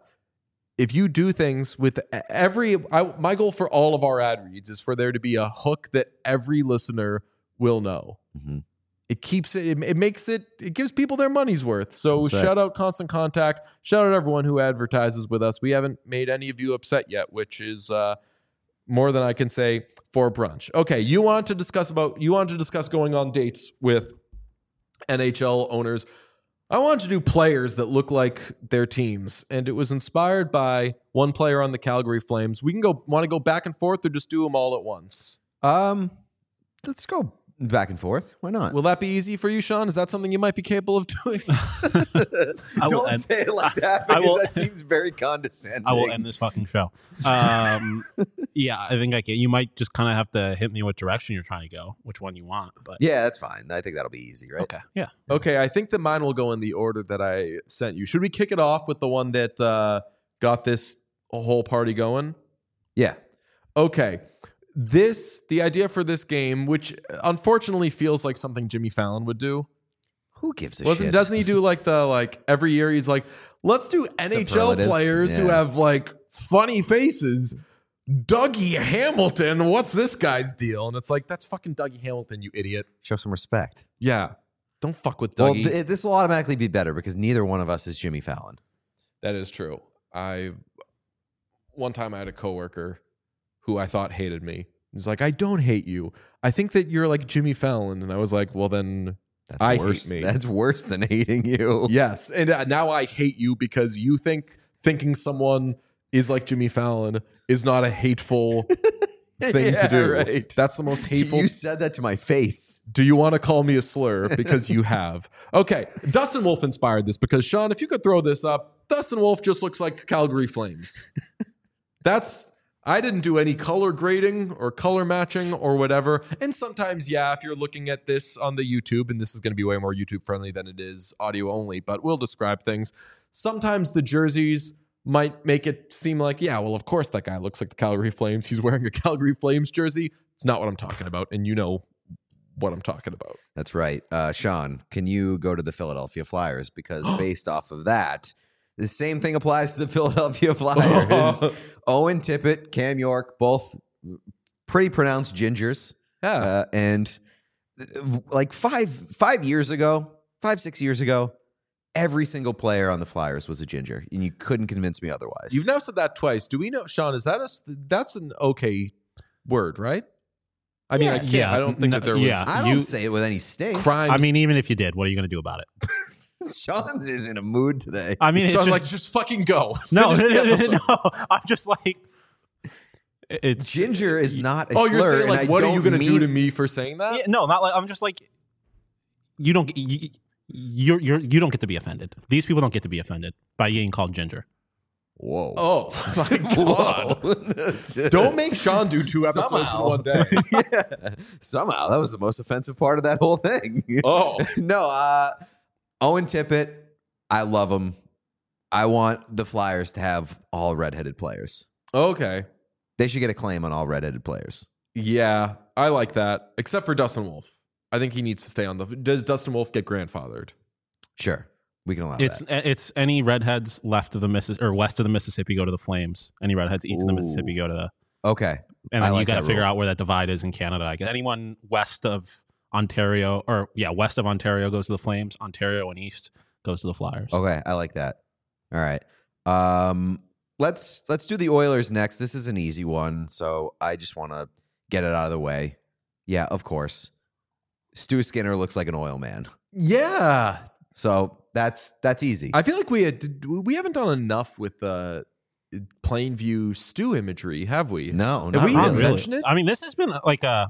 If you do things with every, I, my goal for all of our ad reads is for there to be a hook that every listener will know." Mm-hmm. It keeps it, it, it makes it, it gives people their money's worth. So That's right. shout out Constant Contact. Shout out everyone who advertises with us. We haven't made any of you upset yet, which is uh, more than I can say for brunch. Okay, you want to discuss about, you want to discuss going on dates with N H L owners. I wanted to do players that look like their teams, and it was inspired by one player on the Calgary Flames. We can go, want to go back and forth or just do them all at once? Um, let's go back and forth. Why not? Will that be easy for you, Sean? Is that something you might be capable of doing? I will Don't end- say it like that I because will- that seems very condescending. I will end this fucking show. Um, yeah, I think I can. You might just kind of have to hit me what direction you're trying to go, which one you want. But Yeah, that's fine. I think that'll be easy, right? okay, yeah. Okay, I think that mine will go in the order that I sent you. Should we kick it off with the one that uh, got this whole party going? Yeah. Okay. This, the idea for this game, which unfortunately feels like something Jimmy Fallon would do. Who gives a Wasn't shit? doesn't he do like the like every year he's like, let's do N H L Superlatives, players who yeah. have like funny faces. Dougie Hamilton, what's this guy's deal? And it's like, that's fucking Dougie Hamilton, you idiot. Show some respect. Yeah. Don't fuck with Well, Dougie. th- this will automatically be better because neither one of us is Jimmy Fallon. That is true. I one time I had a coworker who I thought hated me. He's like, I don't hate you. I think that you're like Jimmy Fallon. And I was like, well, then That's I hate worse. me. That's worse than hating you. yes. And uh, now I hate you because you think thinking someone is like Jimmy Fallon is not a hateful thing Yeah, to do. right. That's the most hateful. You said that to my face. Do you want to call me a slur? Because you have. Okay. Dustin Wolf inspired this because, Sean, if you could throw this up, Dustin Wolf just looks like Calgary Flames. That's, I didn't do any color grading or color matching or whatever. And sometimes, yeah, if you're looking at this on the YouTube, and this is going to be way more YouTube friendly than it is audio only, but we'll describe things. Sometimes the jerseys might make it seem like, yeah, well, of course that guy looks like the Calgary Flames. He's wearing a Calgary Flames jersey. It's not what I'm talking about. And you know what I'm talking about. That's right. Uh, Sean, can you go to the Philadelphia Flyers? Because based off of that, the same thing applies to the Philadelphia Flyers. Owen Tippett, Cam York, both pretty pronounced gingers. Yeah. Uh, and uh, like five five years ago, five, six years ago, every single player on the Flyers was a ginger. And you couldn't convince me otherwise. You've now said that twice. Do we know, Sean, is that a, that's an okay word, right? I mean, Yeah, I can't, yeah. I don't think No, that there was yeah. I don't you- say it with any sting. crimes. I mean, even if you did, what are you going to do about it? Sean is in a mood today. I mean, it's So I was just, like, just fucking go. no, Finish the episode. no. I'm just like, it's Ginger is not a Oh, slur. you're saying and like, I what are you don't going to do mean- to me for saying that? Yeah, no, not like I'm just like you don't you, you're you're you don't get to be offended. These people don't get to be offended by being called Ginger. Whoa. Oh my god! Whoa. Don't make Sean do two episodes Somehow. in one day. Yeah. Somehow that was the most offensive part of that whole thing. Oh, no, uh, Owen Tippett, I love him. I want the Flyers to have all redheaded players. okay. They should get a claim on all redheaded players. Yeah, I like that. Except for Dustin Wolf. I think he needs to stay on the. Does Dustin Wolf get grandfathered? Sure, we can allow It's that. it's any redheads left of the Missis or west of the Mississippi go to the Flames. Any redheads east of the Ooh. Mississippi go to the. Okay. And I then you like got to that figure rule. out where that divide is in Canada. I guess anyone west of Ontario or yeah, west of Ontario goes to the Flames. Ontario and east goes to the Flyers. Okay, I like that. All right. Um, let's let's do the Oilers next. This is an easy one, so I just want to get it out of the way. Yeah, of course. Stu Skinner looks like an oil man. Yeah, So that's that's easy. I feel like we had we haven't done enough with the uh, Plainview stew imagery, have we? no, Have not we Not even really. really. mentioned it? I mean, this has been like a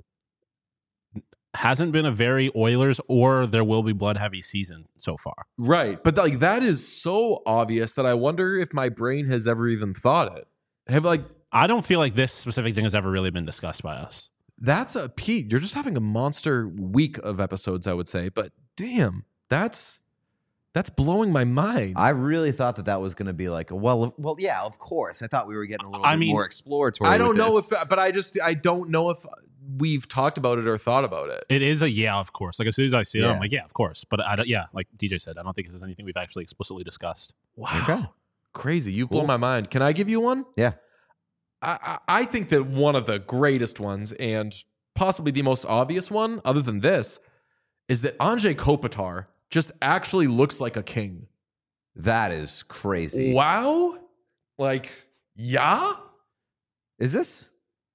hasn't been a very Oilers or there will be blood heavy season so far. Right, but like that is so obvious that I wonder if my brain has ever even thought it. Have like I don't feel like this specific thing has ever really been discussed by us. that's a Pete. You're just having a monster week of episodes, I would say. But damn, that's that's blowing my mind. I really thought that that was going to be like, a, well, well, yeah, of course. I thought we were getting a little I bit mean, more exploratory. I don't with know this. if, but I just I don't know if we've talked about it or thought about it. It is a yeah, of course. Like as soon as I see it, Yeah. I'm like, yeah, of course. But I don't, yeah, like D J said, I don't think this is anything we've actually explicitly discussed. Wow, Okay. crazy! You've Cool. blown my mind. Can I give you one? Yeah. I, I I think that one of the greatest ones and possibly the most obvious one, other than this, is that Anze Kopitar just actually looks like a king. That is crazy. Wow, like yeah. Is this?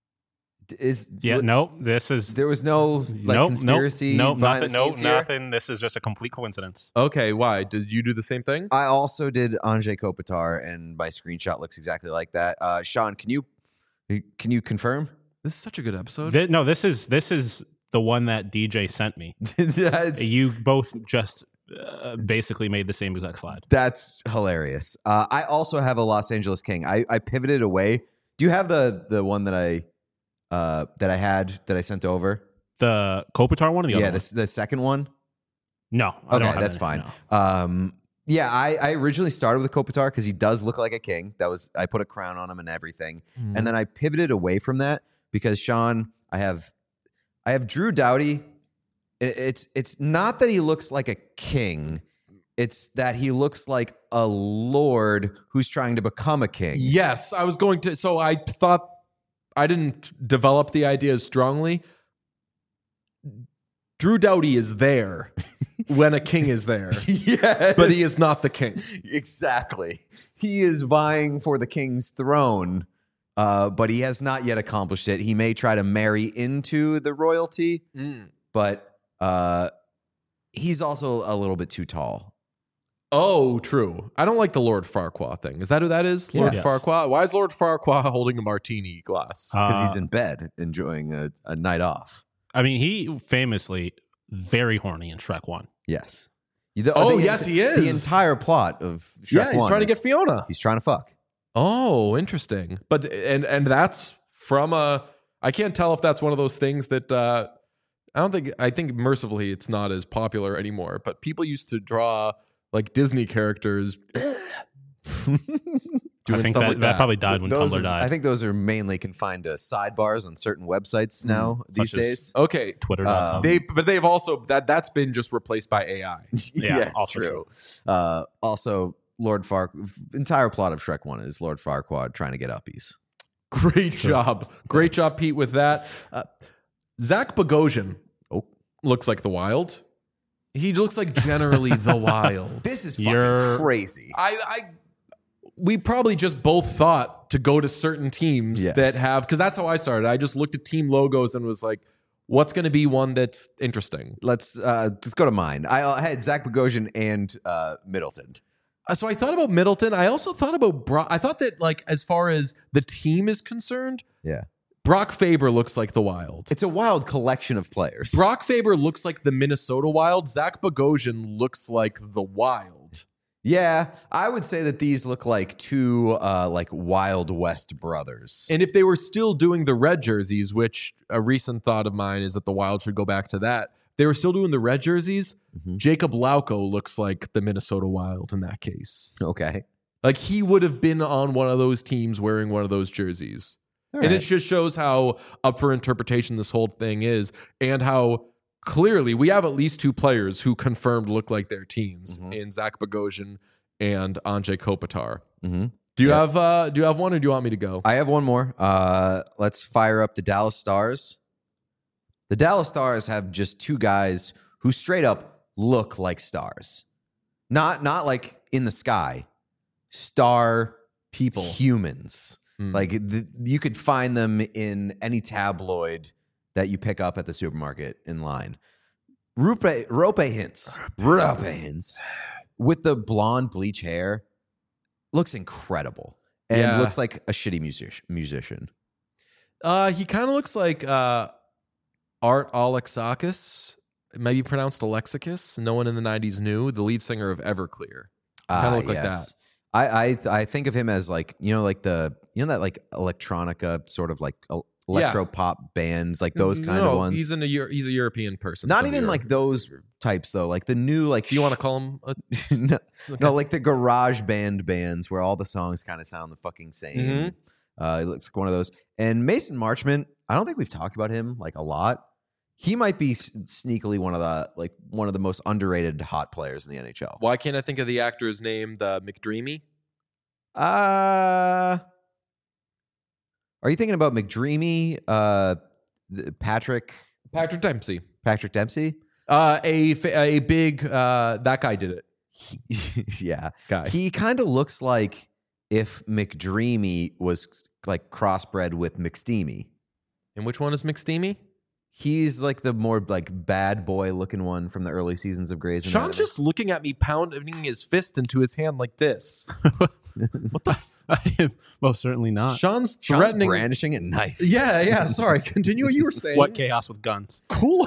Is Yeah, no, this is There was no like nope, conspiracy. Nope, nope, behind nothing, the nope, scenes here? nothing. This is just a complete coincidence. Okay, why did you do the same thing? I also did Anze Kopitar, and my screenshot looks exactly like that. Uh, Sean, can you can you confirm? This is such a good episode. Thi- no, this is this is the one that D J sent me. that's, You both just uh, basically made the same exact slide. that's hilarious. Uh, I also have a Los Angeles King. I, I pivoted away. Do you have the the one that I uh, that I had that I sent over? The Kopitar one or the other Yeah, one? the the second one. No. I Okay, don't have that's any, fine. no. Um, yeah, I, I originally started with Kopitar because he does look like a king. That was I put a crown on him and everything, Mm-hmm. and then I pivoted away from that because Sean, I have, I have Drew Doughty. It, it's it's not that he looks like a king; it's that he looks like a lord who's trying to become a king. Yes, I was going to. So I thought I didn't develop the idea as strongly. Drew Doughty is there when a king is there, yes, but he is not the king. exactly. He is vying for the king's throne, uh, but he has not yet accomplished it. He may try to marry into the royalty, but uh, he's also a little bit too tall. Oh, true. I don't like the Lord Farquaad thing. Is that who that is? Lord Yes. Farquaad? Why is Lord Farquaad holding a martini glass? Because Uh, he's in bed enjoying a, a night off. I mean, he famously very horny in Shrek One. Yes. You- the- Oh, the yes, he is. The entire plot of Shrek yeah, he's one trying to is- get Fiona. He's trying to fuck. Oh, interesting. But and and that's from a. I can't tell if that's one of those things that uh, I don't think. I think mercifully it's not as popular anymore. But people used to draw like Disney characters doing I think stuff that, like that probably died when Those Tumblr are- died. I think those are mainly confined to sidebars on certain websites now these such as- days. Okay, Twitter. Uh, they but they've also that that's been just replaced by A I. Yeah, yes, also true. Uh, also, Lord Farq. Entire plot of Shrek One is Lord Farquaad trying to get uppies. Great job, great job, Pete, with that. Uh, Zach Bogosian Oh. looks like the Wild. He looks like generally the Wild. This is fucking You're- crazy. I, I, we probably just both thought to go to certain teams Yes. that have, because that's how I started. I just looked at team logos and was like, What's going to be one that's interesting? Let's uh, let's go to mine. I, I had Zach Bogosian and uh, Middleton. Uh, So I thought about Middleton. I also thought about Brock. I thought that, like, as far as the team is concerned, Yeah. Brock Faber looks like the Wild. It's a wild collection of players. Brock Faber looks like the Minnesota Wild. Zach Bogosian looks like the Wild. Yeah, I would say that these look like two uh, like Wild West brothers. And if they were still doing the red jerseys, which a recent thought of mine is that the Wild should go back to that. If they were still doing the red jerseys, Mhm. Jacob Lauko looks like the Minnesota Wild in that case. Okay. Like, he would have been on one of those teams wearing one of those jerseys. All And right. it just shows how up for interpretation this whole thing is, and how clearly we have at least two players who confirmed look like their teams Mhm. in Zach Bogosian and Anze Kopitar. Mm-hmm. Do you Yeah. have uh, do you have one, or do you want me to go? I have one more. Uh, let's fire up the Dallas Stars. The Dallas Stars have just two guys who straight up look like stars. Not not like in the sky. Star People. humans. Hmm. Like the, you could find them in any tabloid that you pick up at the supermarket in line. Rupe Rope Hintz. Rope Hintz. With the blonde bleach hair. Looks incredible. And Yeah. looks like a shitty music- musician. Uh, he kind of looks like uh, Art Alexakis. It may be pronounced Alexakis. No one in the nineties knew. The lead singer of Everclear. Kind of Ah, look like yes. that. I, I I think of him as like, you know, like the, you know, that like electronica sort of like el- electro pop bands, like those kind no, of ones. He's in a Euro- he's a European person. Not so even you're- like those types though. Like the new, like, Do you want to call him? A, no, okay. no, like the garage band bands where all the songs kind of sound the fucking same. Mhm. Uh, it looks like one of those. And Mason Marchment, I don't think we've talked about him like a lot. He might be s- sneakily one of the like one of the most underrated hot players in the N H L. Why can't I think of the actor's name? The McDreamy. Uh, are you thinking about McDreamy, uh, th- Patrick Patrick Dempsey. Patrick Dempsey? Uh, a fa- a big uh, that guy did it. Yeah, Guy. he kind of looks like if McDreamy was like crossbred with McSteamy. And which one is McSteamy? He's like the more like bad boy looking one from the early seasons of Grey's Anatomy. Sean's just looking at me, pounding his fist into his hand like this. What the? F- I am most certainly not. Sean's Sean's threatening. brandishing a knife. Yeah, yeah. Sorry. Continue what you were saying. What chaos with guns? Cool.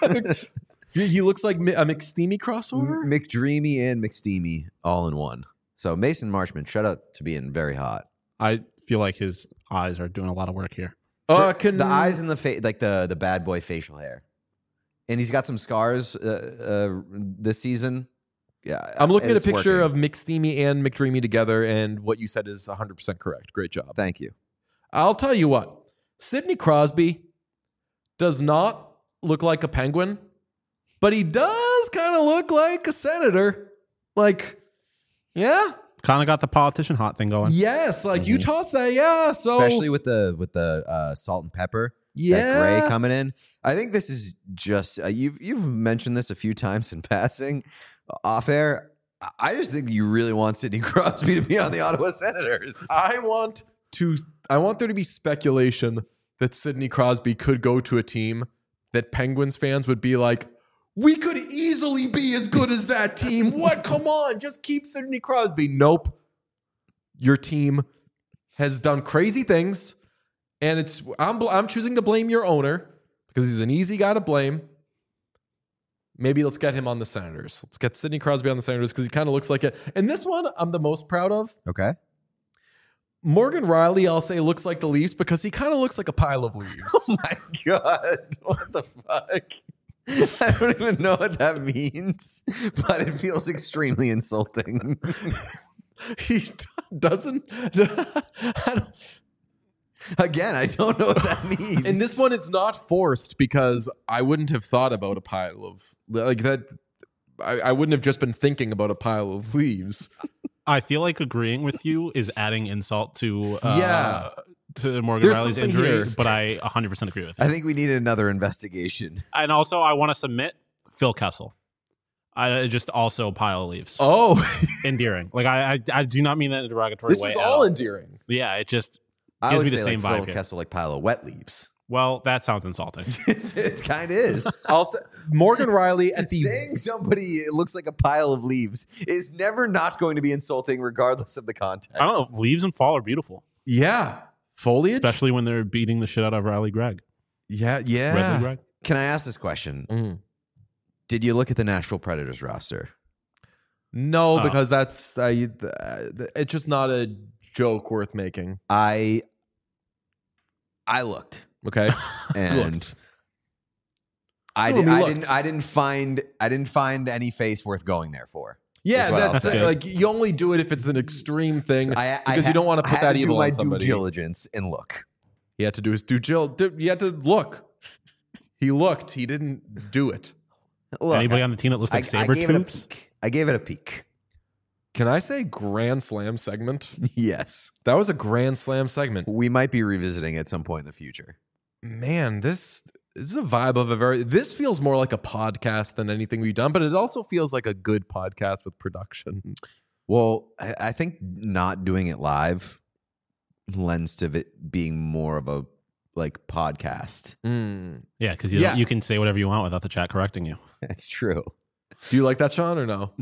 he he looks like Mi- a McSteamy crossover. M- McDreamy and McSteamy all in one. So Mason Marchment, shout out to being very hot. I feel like his eyes are doing a lot of work here. Uh, can The eyes and the face, like the the bad boy facial hair, and he's got some scars uh, uh, this season. Yeah, I'm looking at a it's picture working. of McSteamy and McDreamy together, and what you said is one hundred percent correct. Great job. Thank you. I'll tell you what. Sidney Crosby does not look like a Penguin, but he does kind of look like a Senator. Like, yeah, Kind of got the politician hot thing going. yes. Like you Mhm. toss that, yeah. So Especially with the with the uh, salt and pepper. yeah, That gray coming in. I think this is just uh, you've you've mentioned this a few times in passing, off air. I- I just think you really want Sidney Crosby to be on the Ottawa Senators. I want to. I want there to be speculation that Sidney Crosby could go to a team that Penguins fans would be like, we could easily be as good as that team. What? Come on, just keep Sidney Crosby. Nope. Your team has done crazy things, and it's I'm bl- I'm choosing to blame your owner because he's an easy guy to blame. Maybe let's get him on the Senators. Let's get Sidney Crosby on the Senators because he kind of looks like it. And this one I'm the most proud of. Okay. Morgan Riley, I'll say, looks like the Leafs because he kind of looks like a pile of leaves. Oh my god! What the fuck? I don't even know what that means, but it feels extremely insulting. he d- doesn't. I don't- Again, I don't know what that means. and this one is not forced because I wouldn't have thought about a pile of like that. I, I wouldn't have just been thinking about a pile of leaves. I feel like agreeing with you is adding insult to uh, Yeah. to Morgan There's Riley's something injury, here. but I one hundred percent agree with you. I think we need another investigation. And also, I want to submit Phil Kessel. I just also a pile of leaves. Oh, Endearing. Like I, I, I do not mean that in a derogatory this way. is at all endearing. Yeah, it just I gives would me the say same like vibe Phil here. Kessel, like pile of wet leaves. Well, that sounds insulting. it's, it kind of is. Also, Morgan Riley at the Saying somebody looks like a pile of leaves is never not going to be insulting, regardless of the context. I don't know. Leaves and fall are beautiful, yeah foliage, especially when they're beating the shit out of Riley Gregg. yeah yeah. Riley Gregg. Can I ask this question? Mm. Did you look at the Nashville Predators roster? No, Oh. because that's I, it's just not a joke worth making. I I looked. Okay, And I, So did, we I looked. didn't I didn't find I didn't find any face worth going there for. yeah, Is what I'll that's say. uh, like you only do it if it's an extreme thing I, I because ha- you don't want to I put had that to evil do my on somebody. due diligence and look. He had to do his due diligence. He had to look. He looked. He didn't do it. Look, Anybody I, on the team that looks like I, I gave it a Sabretooths? peek. I gave it a peek. Can I say Grand Slam segment? Yes, That was a Grand Slam segment. we might be revisiting at some point in the future. Man, this this is a vibe of a very. This feels more like a podcast than anything we've done, but it also feels like a good podcast with production. Well, I, I think not doing it live lends to it being more of a like podcast. Mm. Yeah, because you, Yeah. you can say whatever you want without the chat correcting you. That's true. Do you like that, Sean, or no?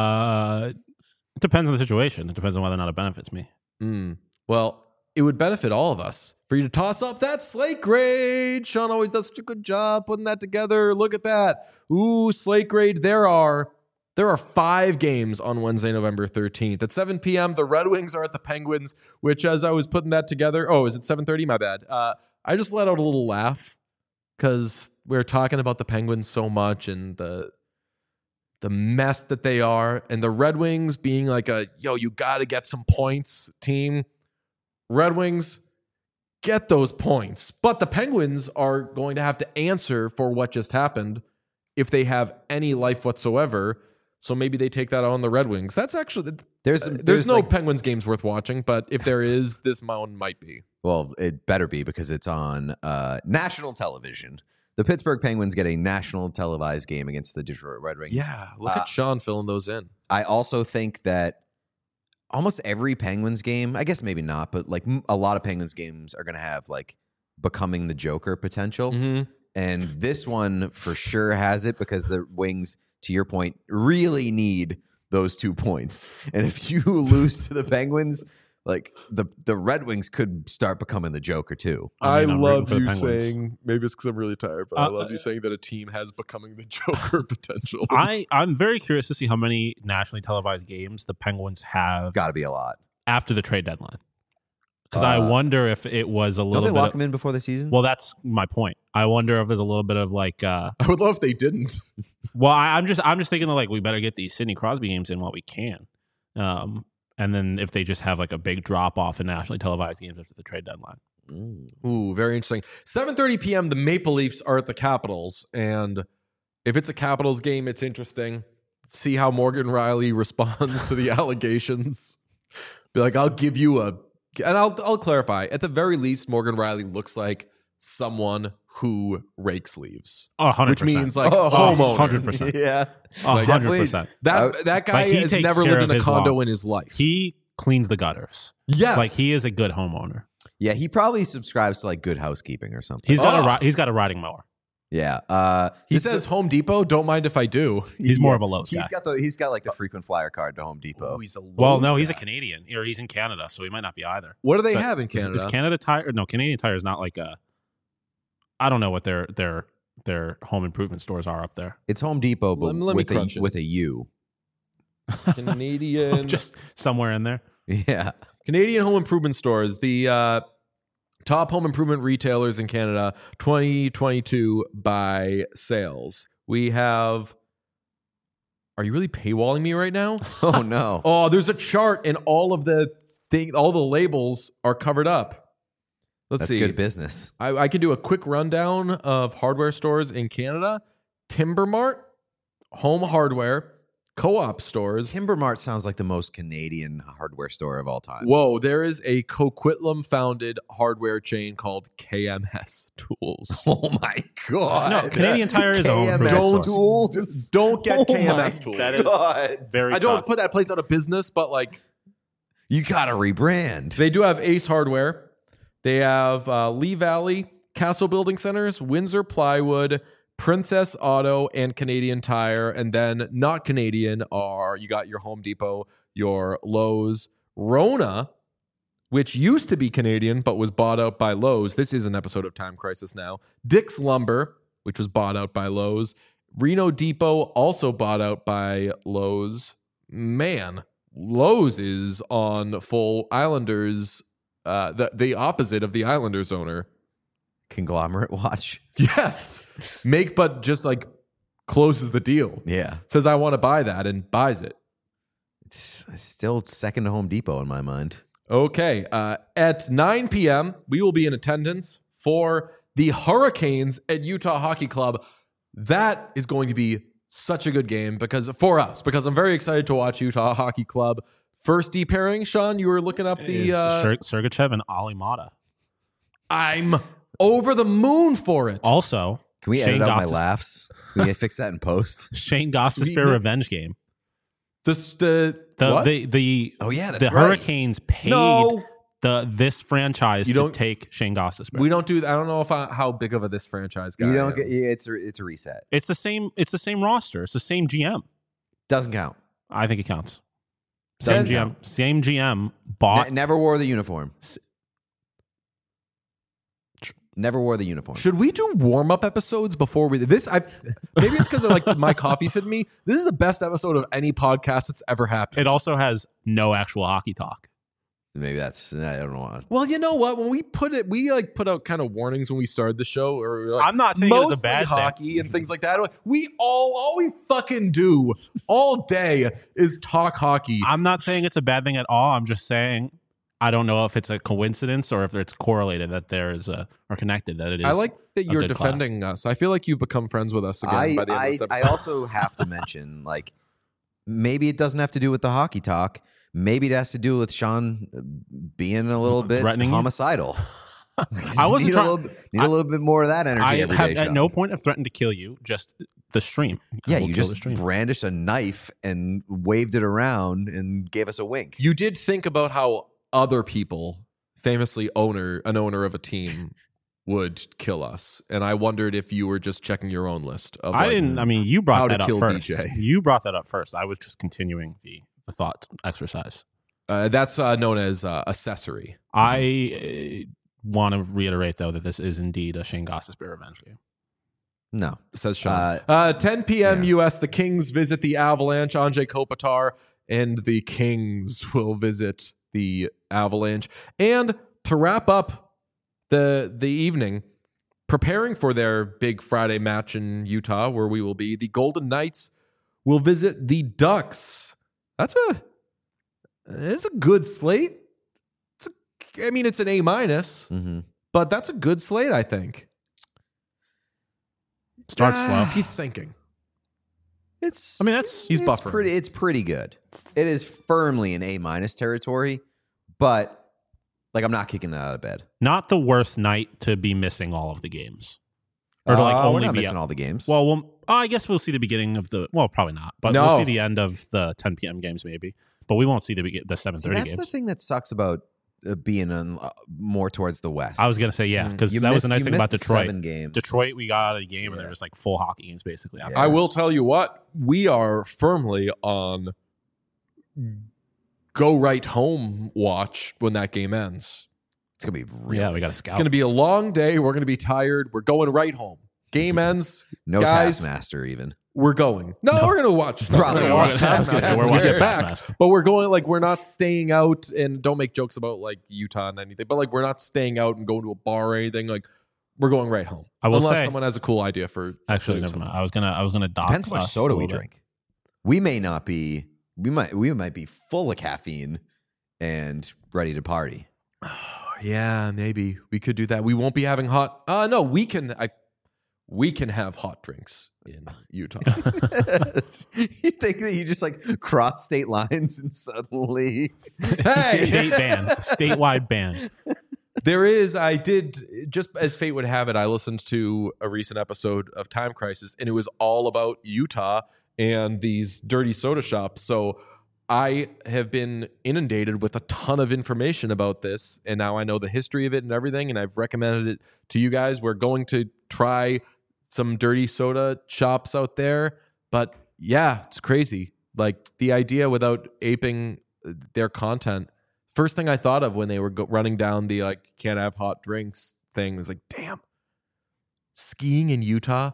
Uh, it depends on the situation. It depends on whether or not it benefits me. Mm. Well, it would benefit all of us for you to toss up that slate grade. Sean always does such a good job putting that together. Look at that. Ooh, slate grade. There are there are five games on Wednesday, November thirteenth. At seven p.m., the Red Wings are at the Penguins, which as I was putting that together, oh, is it seven thirty? My bad. Uh, I just let out a little laugh because we were talking about the Penguins so much and the the mess that they are, and the Red Wings being like a, yo, you got to get some points team. Red Wings, get those points. But the Penguins are going to have to answer for what just happened if they have any life whatsoever. So maybe they take that on the Red Wings. That's actually, There's there's, there's no like, Penguins games worth watching, but if there is, this mountain might be. well, it better be because it's on uh, national television. The Pittsburgh Penguins get a national televised game against the Detroit Red Wings. Yeah, look Uh, at Sean filling those in. I also think that almost every Penguins game, I guess maybe not, but like m- a lot of Penguins games are going to have like becoming the Joker potential. Mm-hmm. And this one for sure has it because the Wings, to your point, really need those two points. And if you lose to the Penguins, like the, the Red Wings could start becoming the Joker too. I I, mean, I'm love rooting for the you Penguins. saying, maybe it's because I'm really tired, but I Uh, love you saying that a team has becoming the Joker potential. I, I'm very curious to see how many nationally televised games the Penguins have Got to be a lot. after the trade deadline. Because I Uh, wonder if it was a Don't little they bit. lock of- them in before the season? well, that's my point. I wonder if there's a little bit of like. Uh, I would love if they didn't. well, I, I'm just I'm just thinking that like we better get these Sidney Crosby games in while we can. Um, and then if they just have like a big drop off in nationally televised games after the trade deadline. Mm. Ooh, very interesting. seven thirty p.m., the Maple Leafs are at the Capitals. And if it's a Capitals game, it's interesting. See how Morgan Riley responds to the allegations. Be like, I'll give you a... And I'll, I'll clarify. At the very least, Morgan Riley looks like someone who rakes leaves. Oh, one hundred Which percent. means like Oh, homeowner. one hundred percent. Yeah. Oh, one hundred definitely- percent. That, that guy Like, he has takes never care lived of in a his condo lawn. in his life. He cleans the gutters. yes. Like he is a good homeowner. Yeah, he probably subscribes to like Good Housekeeping or something. He's got Oh. a ri- he's got a riding mower. yeah. Uh, He this says is Home Depot, don't mind if I do. He's more of a Lowe's the, guy. he's got the he's got like the frequent flyer card to Home Depot. Oh, he's a Well, Lowe's no, he's a guy. Canadian, or he's in Canada, so he might not be either. What do they But have in is- Canada? Is, Canada Tire? No, Canadian Tire is not like a. I don't know what their their their home improvement stores are up there. It's Home Depot, but Let me- let me with crunch a it. with a U. Canadian Just somewhere in there. Yeah. Canadian home improvement stores, the uh, top home improvement retailers in Canada, twenty twenty-two by sales. We have. Are you really paywalling me right now? Oh no. Oh, there's a chart, and all of the thing, all the labels are covered up. Let's That's see. good business. I, I can do a quick rundown of hardware stores in Canada: Timber Mart, Home Hardware, Co-op stores. Timber Mart sounds like the most Canadian hardware store of all time. Whoa, there is a Coquitlam founded hardware chain called K M S Tools. Oh my god. No, Canadian Tire is a home K M S improvement store. Tools. Don't get Oh K M S my Tools. That is God. very. I don't tough. put that place out of business, but like You gotta rebrand. they do have Ace Hardware. They have uh, Lee Valley, Castle Building Centers, Windsor Plywood, Princess Auto, and Canadian Tire. And then not Canadian are, you got your Home Depot, your Lowe's, Rona, which used to be Canadian but was bought out by Lowe's. This is an episode of Time Crisis now. Dick's Lumber, which was bought out by Lowe's. Reno Depot, also bought out by Lowe's. Man, Lowe's is on full Islanders, uh, the, the opposite of the Islanders owner. Conglomerate watch. Yes. Make, but just like closes the deal. Yeah. Says, I want to buy that and buys it. It's still second to Home Depot in my mind. Okay. Uh, at nine p.m., we will be in attendance for the Hurricanes at Utah Hockey Club. That is going to be such a good game because for us, because I'm very excited to watch Utah Hockey Club. First D pairing, Sean, you were looking up the... Uh, Ser- Sergachev and Ali Mata. I'm over the moon for it. Also, Can we Shane edit out my Gostis- laughs? Can we fix that in post? Shane Goss Sweet Spear man. revenge game. This, the, The what? the the Oh, yeah, that's the right. Hurricanes paid No. the this franchise You to don't- take Shane Goss Spear. We don't do that. I don't know if I, how big of a this franchise guy You I don't am. get. Yeah, it's a, it's a reset. It's the same. It's the same roster. It's the same G M. Doesn't count. I think it counts. Same Doesn't G M. count. Same G M bought. Ne- never wore the uniform. S- Never wore the uniform. Should we do warm up episodes before we this? I maybe it's because of like my coffee's hitting me. This is the best episode of any podcast that's ever happened. It also has no actual hockey talk. Maybe that's. I don't know. well, you know what? When we put it, we like put out kind of warnings when we started the show, or like, I'm not saying it was a mostly bad thing. hockey and things like that. We all all we fucking do all day is talk hockey. I'm not saying it's a bad thing at all. I'm just saying I don't know if it's a coincidence or if it's correlated that there is a or connected that it is. I like that a you're good class. defending us. I feel like you've become friends with us again I by the end I, of this I episode. also have to mention like maybe it doesn't have to do with the hockey talk. Maybe it has to do with Sean being a little bit Threatening you? homicidal. I wasn't need, trying- a little, need a little bit more of that energy I every have day, at Sean. no point have threatened to kill you. Just the stream. I Yeah, will you kill just the stream. brandished a knife and waved it around and gave us a wink. You did think about how other people, famously owner an owner of a team, would kill us, and I wondered if you were just checking your own list. Of I like, didn't. I mean, you how brought to that up kill first. D J. You brought that up first. I was just continuing the the thought exercise. Uh, that's uh, known as uh, accessory. I uh, want to reiterate though that this is indeed a Shane Goss Spear revenge game. No. Says Sean. Uh, Uh, ten p.m. yeah. U S. The Kings visit the Avalanche. Anjay Kopitar and the Kings will visit the Avalanche. And to wrap up the the evening, preparing for their big Friday match in Utah, where we will be, the Golden Knights will visit the Ducks. That's a it's a good slate. It's a, I mean, it's an A minus, Mm-hmm. but that's a good slate, I think. Start Ah, slow. Pete's thinking. It's. I mean, that's- He's it's buffering. pretty. It's pretty good. It is firmly in A minus territory, but like I'm not kicking it out of bed. Not the worst night to be missing all of the games, or to like Uh, we're only not be missing all the games. Well, we'll oh, I guess we'll see the beginning of the. Well, probably not, but No. we'll see the end of the ten p.m. games maybe. But we won't see the begi- the seven See, thirty that's games. the thing that sucks about uh, being on, uh, more towards the west. I was gonna say yeah, Mm. because You that was missed- the nice you thing about missed the Detroit. seven games. Detroit, we got out of the game and Yeah. there was like full hockey games basically. Yeah. After. I will tell you what, we are firmly on go right home watch when that game ends. It's gonna be real. Yeah, we got to It's scout. going to be a long day. We're going to be tired. We're going right home. Game ends. no guys. Taskmaster even. We're going. No, No. we're going to watch. no, Probably we're gonna going watch to watch Taskmaster. Taskmaster We're when we watching get back. Taskmaster. But we're going like we're not staying out, and don't make jokes about like Utah and anything. But like we're not staying out and going to a bar or anything. Like we're going right home. I will Unless say- someone has a cool idea for Actually, doing never mind. something. I was gonna I was gonna dox Depends how much us soda a we little bit. drink. We may not be. We might. We might be full of caffeine and ready to party. Yeah, maybe we could do that. We won't be having hot. Uh no, we can. I we can have hot drinks in Utah. You think that you just like cross state lines and suddenly Hey, State ban, statewide ban. there is. I did just as fate would have it. I listened to a recent episode of Time Crisis, and it was all about Utah and these dirty soda shops. So I have been inundated with a ton of information about this, and now I know the history of it and everything, and I've recommended it to you guys. We're going to try some dirty soda shops out there, but yeah, it's crazy. Like the idea without aping their content. First thing I thought of when they were go- running down the like can't have hot drinks thing was like, damn, skiing in Utah.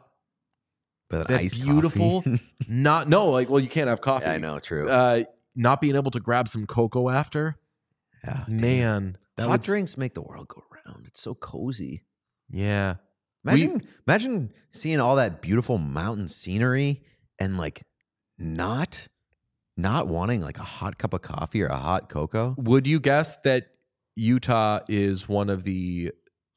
But That iced beautiful, coffee. not no, like well, you can't have coffee. Yeah, I know, true. Uh, not being able to grab some cocoa after, Yeah, damn. man, that Hot would, drinks make the world go round. It's so cozy. yeah. Imagine, imagine seeing all that beautiful mountain scenery and like not, not wanting like a hot cup of coffee or a hot cocoa. Would you guess that Utah is one of the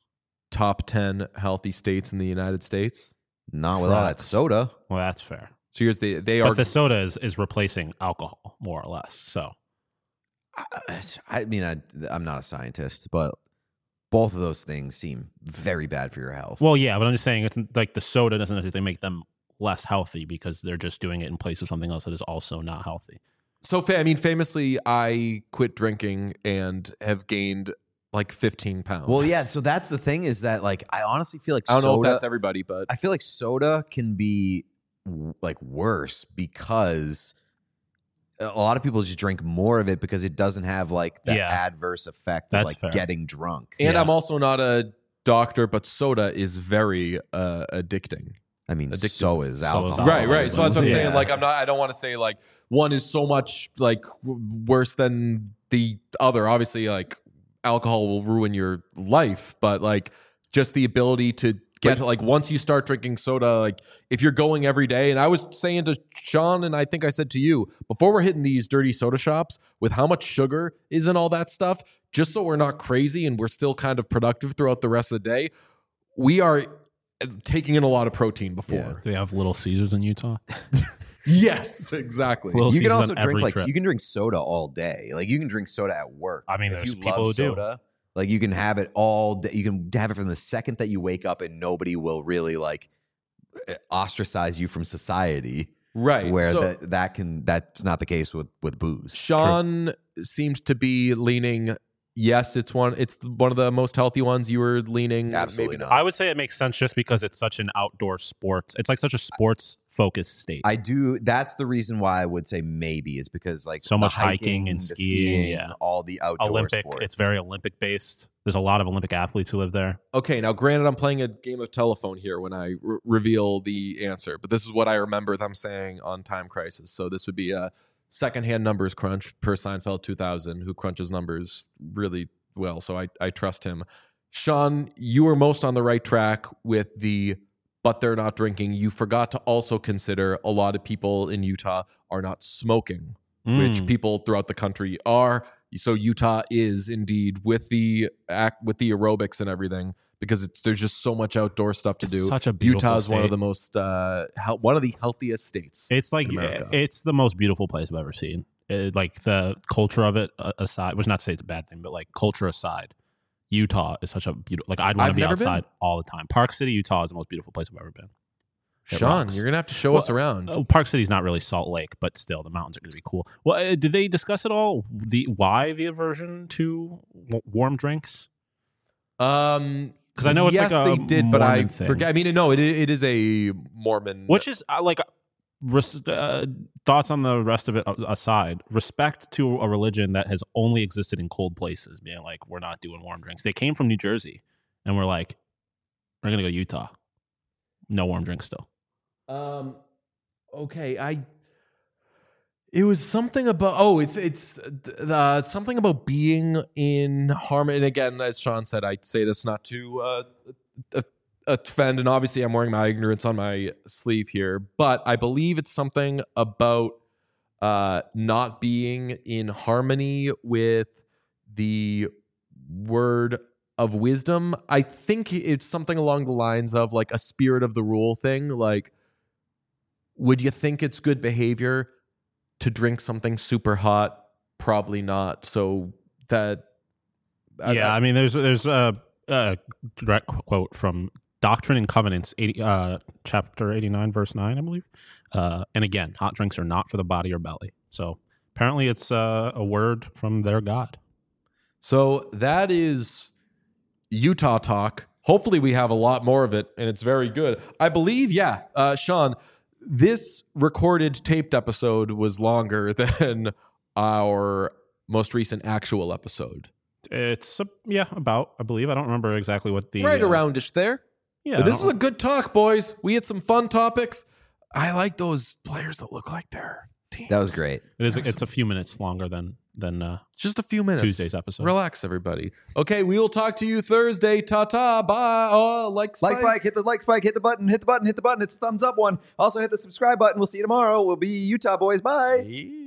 top ten healthy states in the United States? Not with all that Correct. soda. Well, that's fair. So here's the they But are the soda is, is replacing alcohol, more or less. So I, I mean, I, I'm not a scientist, but both of those things seem very bad for your health. well, yeah, but I'm just saying it's like the soda doesn't necessarily make them less healthy because they're just doing it in place of something else that is also not healthy. so. Fa- I mean, famously, I quit drinking and have gained like fifteen pounds. Well, yeah. So that's the thing is that like I honestly feel like I don't soda, know if that's everybody, but I feel like soda can be w- like worse because a lot of people just drink more of it because it doesn't have like the Yeah. adverse effect That's of like fair. getting drunk. and Yeah. I'm also not a doctor, but soda is very uh, addicting. I mean, Addictive. so is So alcohol. is Right, alcohol. right. So that's what I'm Yeah. saying. Like, I'm not. I don't want to say like one is so much like w- worse than the other. Obviously, like alcohol will ruin your life, but like just the ability to get like once you start drinking soda, like if you're going every day. And I was saying to Sean, and I think I said to you before we're hitting these dirty soda shops with how much sugar is in all that stuff, just so we're not crazy and we're still kind of productive throughout the rest of the day. We are taking in a lot of protein before. Yeah. Do they have Little Caesars in Utah? Yes, exactly. Little You can Caesars also on drink every like trip. you can drink soda all day. Like you can drink soda at work. I mean, if there's you people love who do. soda, like you can have it all day. You can have it from the second that you wake up, and nobody will really like ostracize you from society. Right. Where So- that that can that's not the case with with booze. Sean seemed to be leaning. Yes, it's one. It's one of the most healthy ones. You were leaning. Absolutely maybe not. I would say it makes sense just because it's such an outdoor sport. It's like such a sports focused state. I do. That's the reason why I would say maybe is because like So the much hiking and the skiing, yeah. all the outdoor Olympic. sports. It's very Olympic based. There's a lot of Olympic athletes who live there. Okay, now granted, I'm playing a game of telephone here when I re- reveal the answer, but this is what I remember them saying on Time Crisis. So this would be a secondhand numbers crunch per Seinfeld two thousand, who crunches numbers really well. So I, I trust him. Sean, you were most on the right track with the but they're not drinking. You forgot to also consider a lot of people in Utah are not smoking, which Mm. people throughout the country are. So Utah is indeed with the act with the aerobics and everything because it's there's just so much outdoor stuff to It's do. such a beautiful Utah is one of state. the most uh, hel- one of the healthiest states. It's like in America. it's the most beautiful place I've ever seen. It, like the culture of it uh, aside, which not to say it's a bad thing, but like culture aside, Utah is such a beautiful. Like I'd want I've to be never been. outside all the time. Park City, Utah is the most beautiful place I've ever been. It Sean, rocks. you're gonna have to show Well, us around. Oh, Park City's not really Salt Lake, but still, the mountains are going to be cool. Well, uh, did they discuss at all the why the aversion to w- warm drinks? Um, 'Cause I know it's yes, like a they did, but I Mormon thing. forget. I mean, no, it it is a Mormon. Which is uh, like res- uh, thoughts on the rest of it a- aside, respect to a religion that has only existed in cold places, being like, we're not doing warm drinks. They came from New Jersey, and we're like, we're gonna go to Utah. No warm drinks still. Um, okay, I. It was something about oh, it's it's uh, something about being in harmony. And again, as Sean said, I say this not to uh, offend, and obviously I'm wearing my ignorance on my sleeve here, but I believe it's something about uh, not being in harmony with the word of wisdom. I think it's something along the lines of like a spirit of the rule thing. Like, would you think it's good behavior to drink something super hot? Probably not. So that yeah, I, mean, there's there's a, a direct quote from Doctrine and Covenants, eighty, uh, chapter eighty-nine, verse nine, I believe. Uh, and again, hot drinks are not for the body or belly. So Apparently, it's uh, a word from their god. So that is Utah talk. Hopefully we have a lot more of it, and it's very good. I believe, yeah, uh, Sean, this recorded taped episode was longer than our most recent actual episode. It's, uh, yeah, about, I believe. I don't remember exactly what the... Right uh, aroundish there. Yeah. But I this don't- was a good talk, boys. We had some fun topics. I like those players that look like they're teams. That was great. It is. It's a few minutes longer than than uh, Just a few minutes. Tuesday's episode. Relax, everybody. Okay, we will talk to you Thursday. Ta-ta. Bye. Oh, like Spike. Like spike, hit the like spike, hit the button, hit the button, hit the button. It's the thumbs up one. Also hit the subscribe button. We'll see you tomorrow. We'll be Utah boys. Bye. Yeah.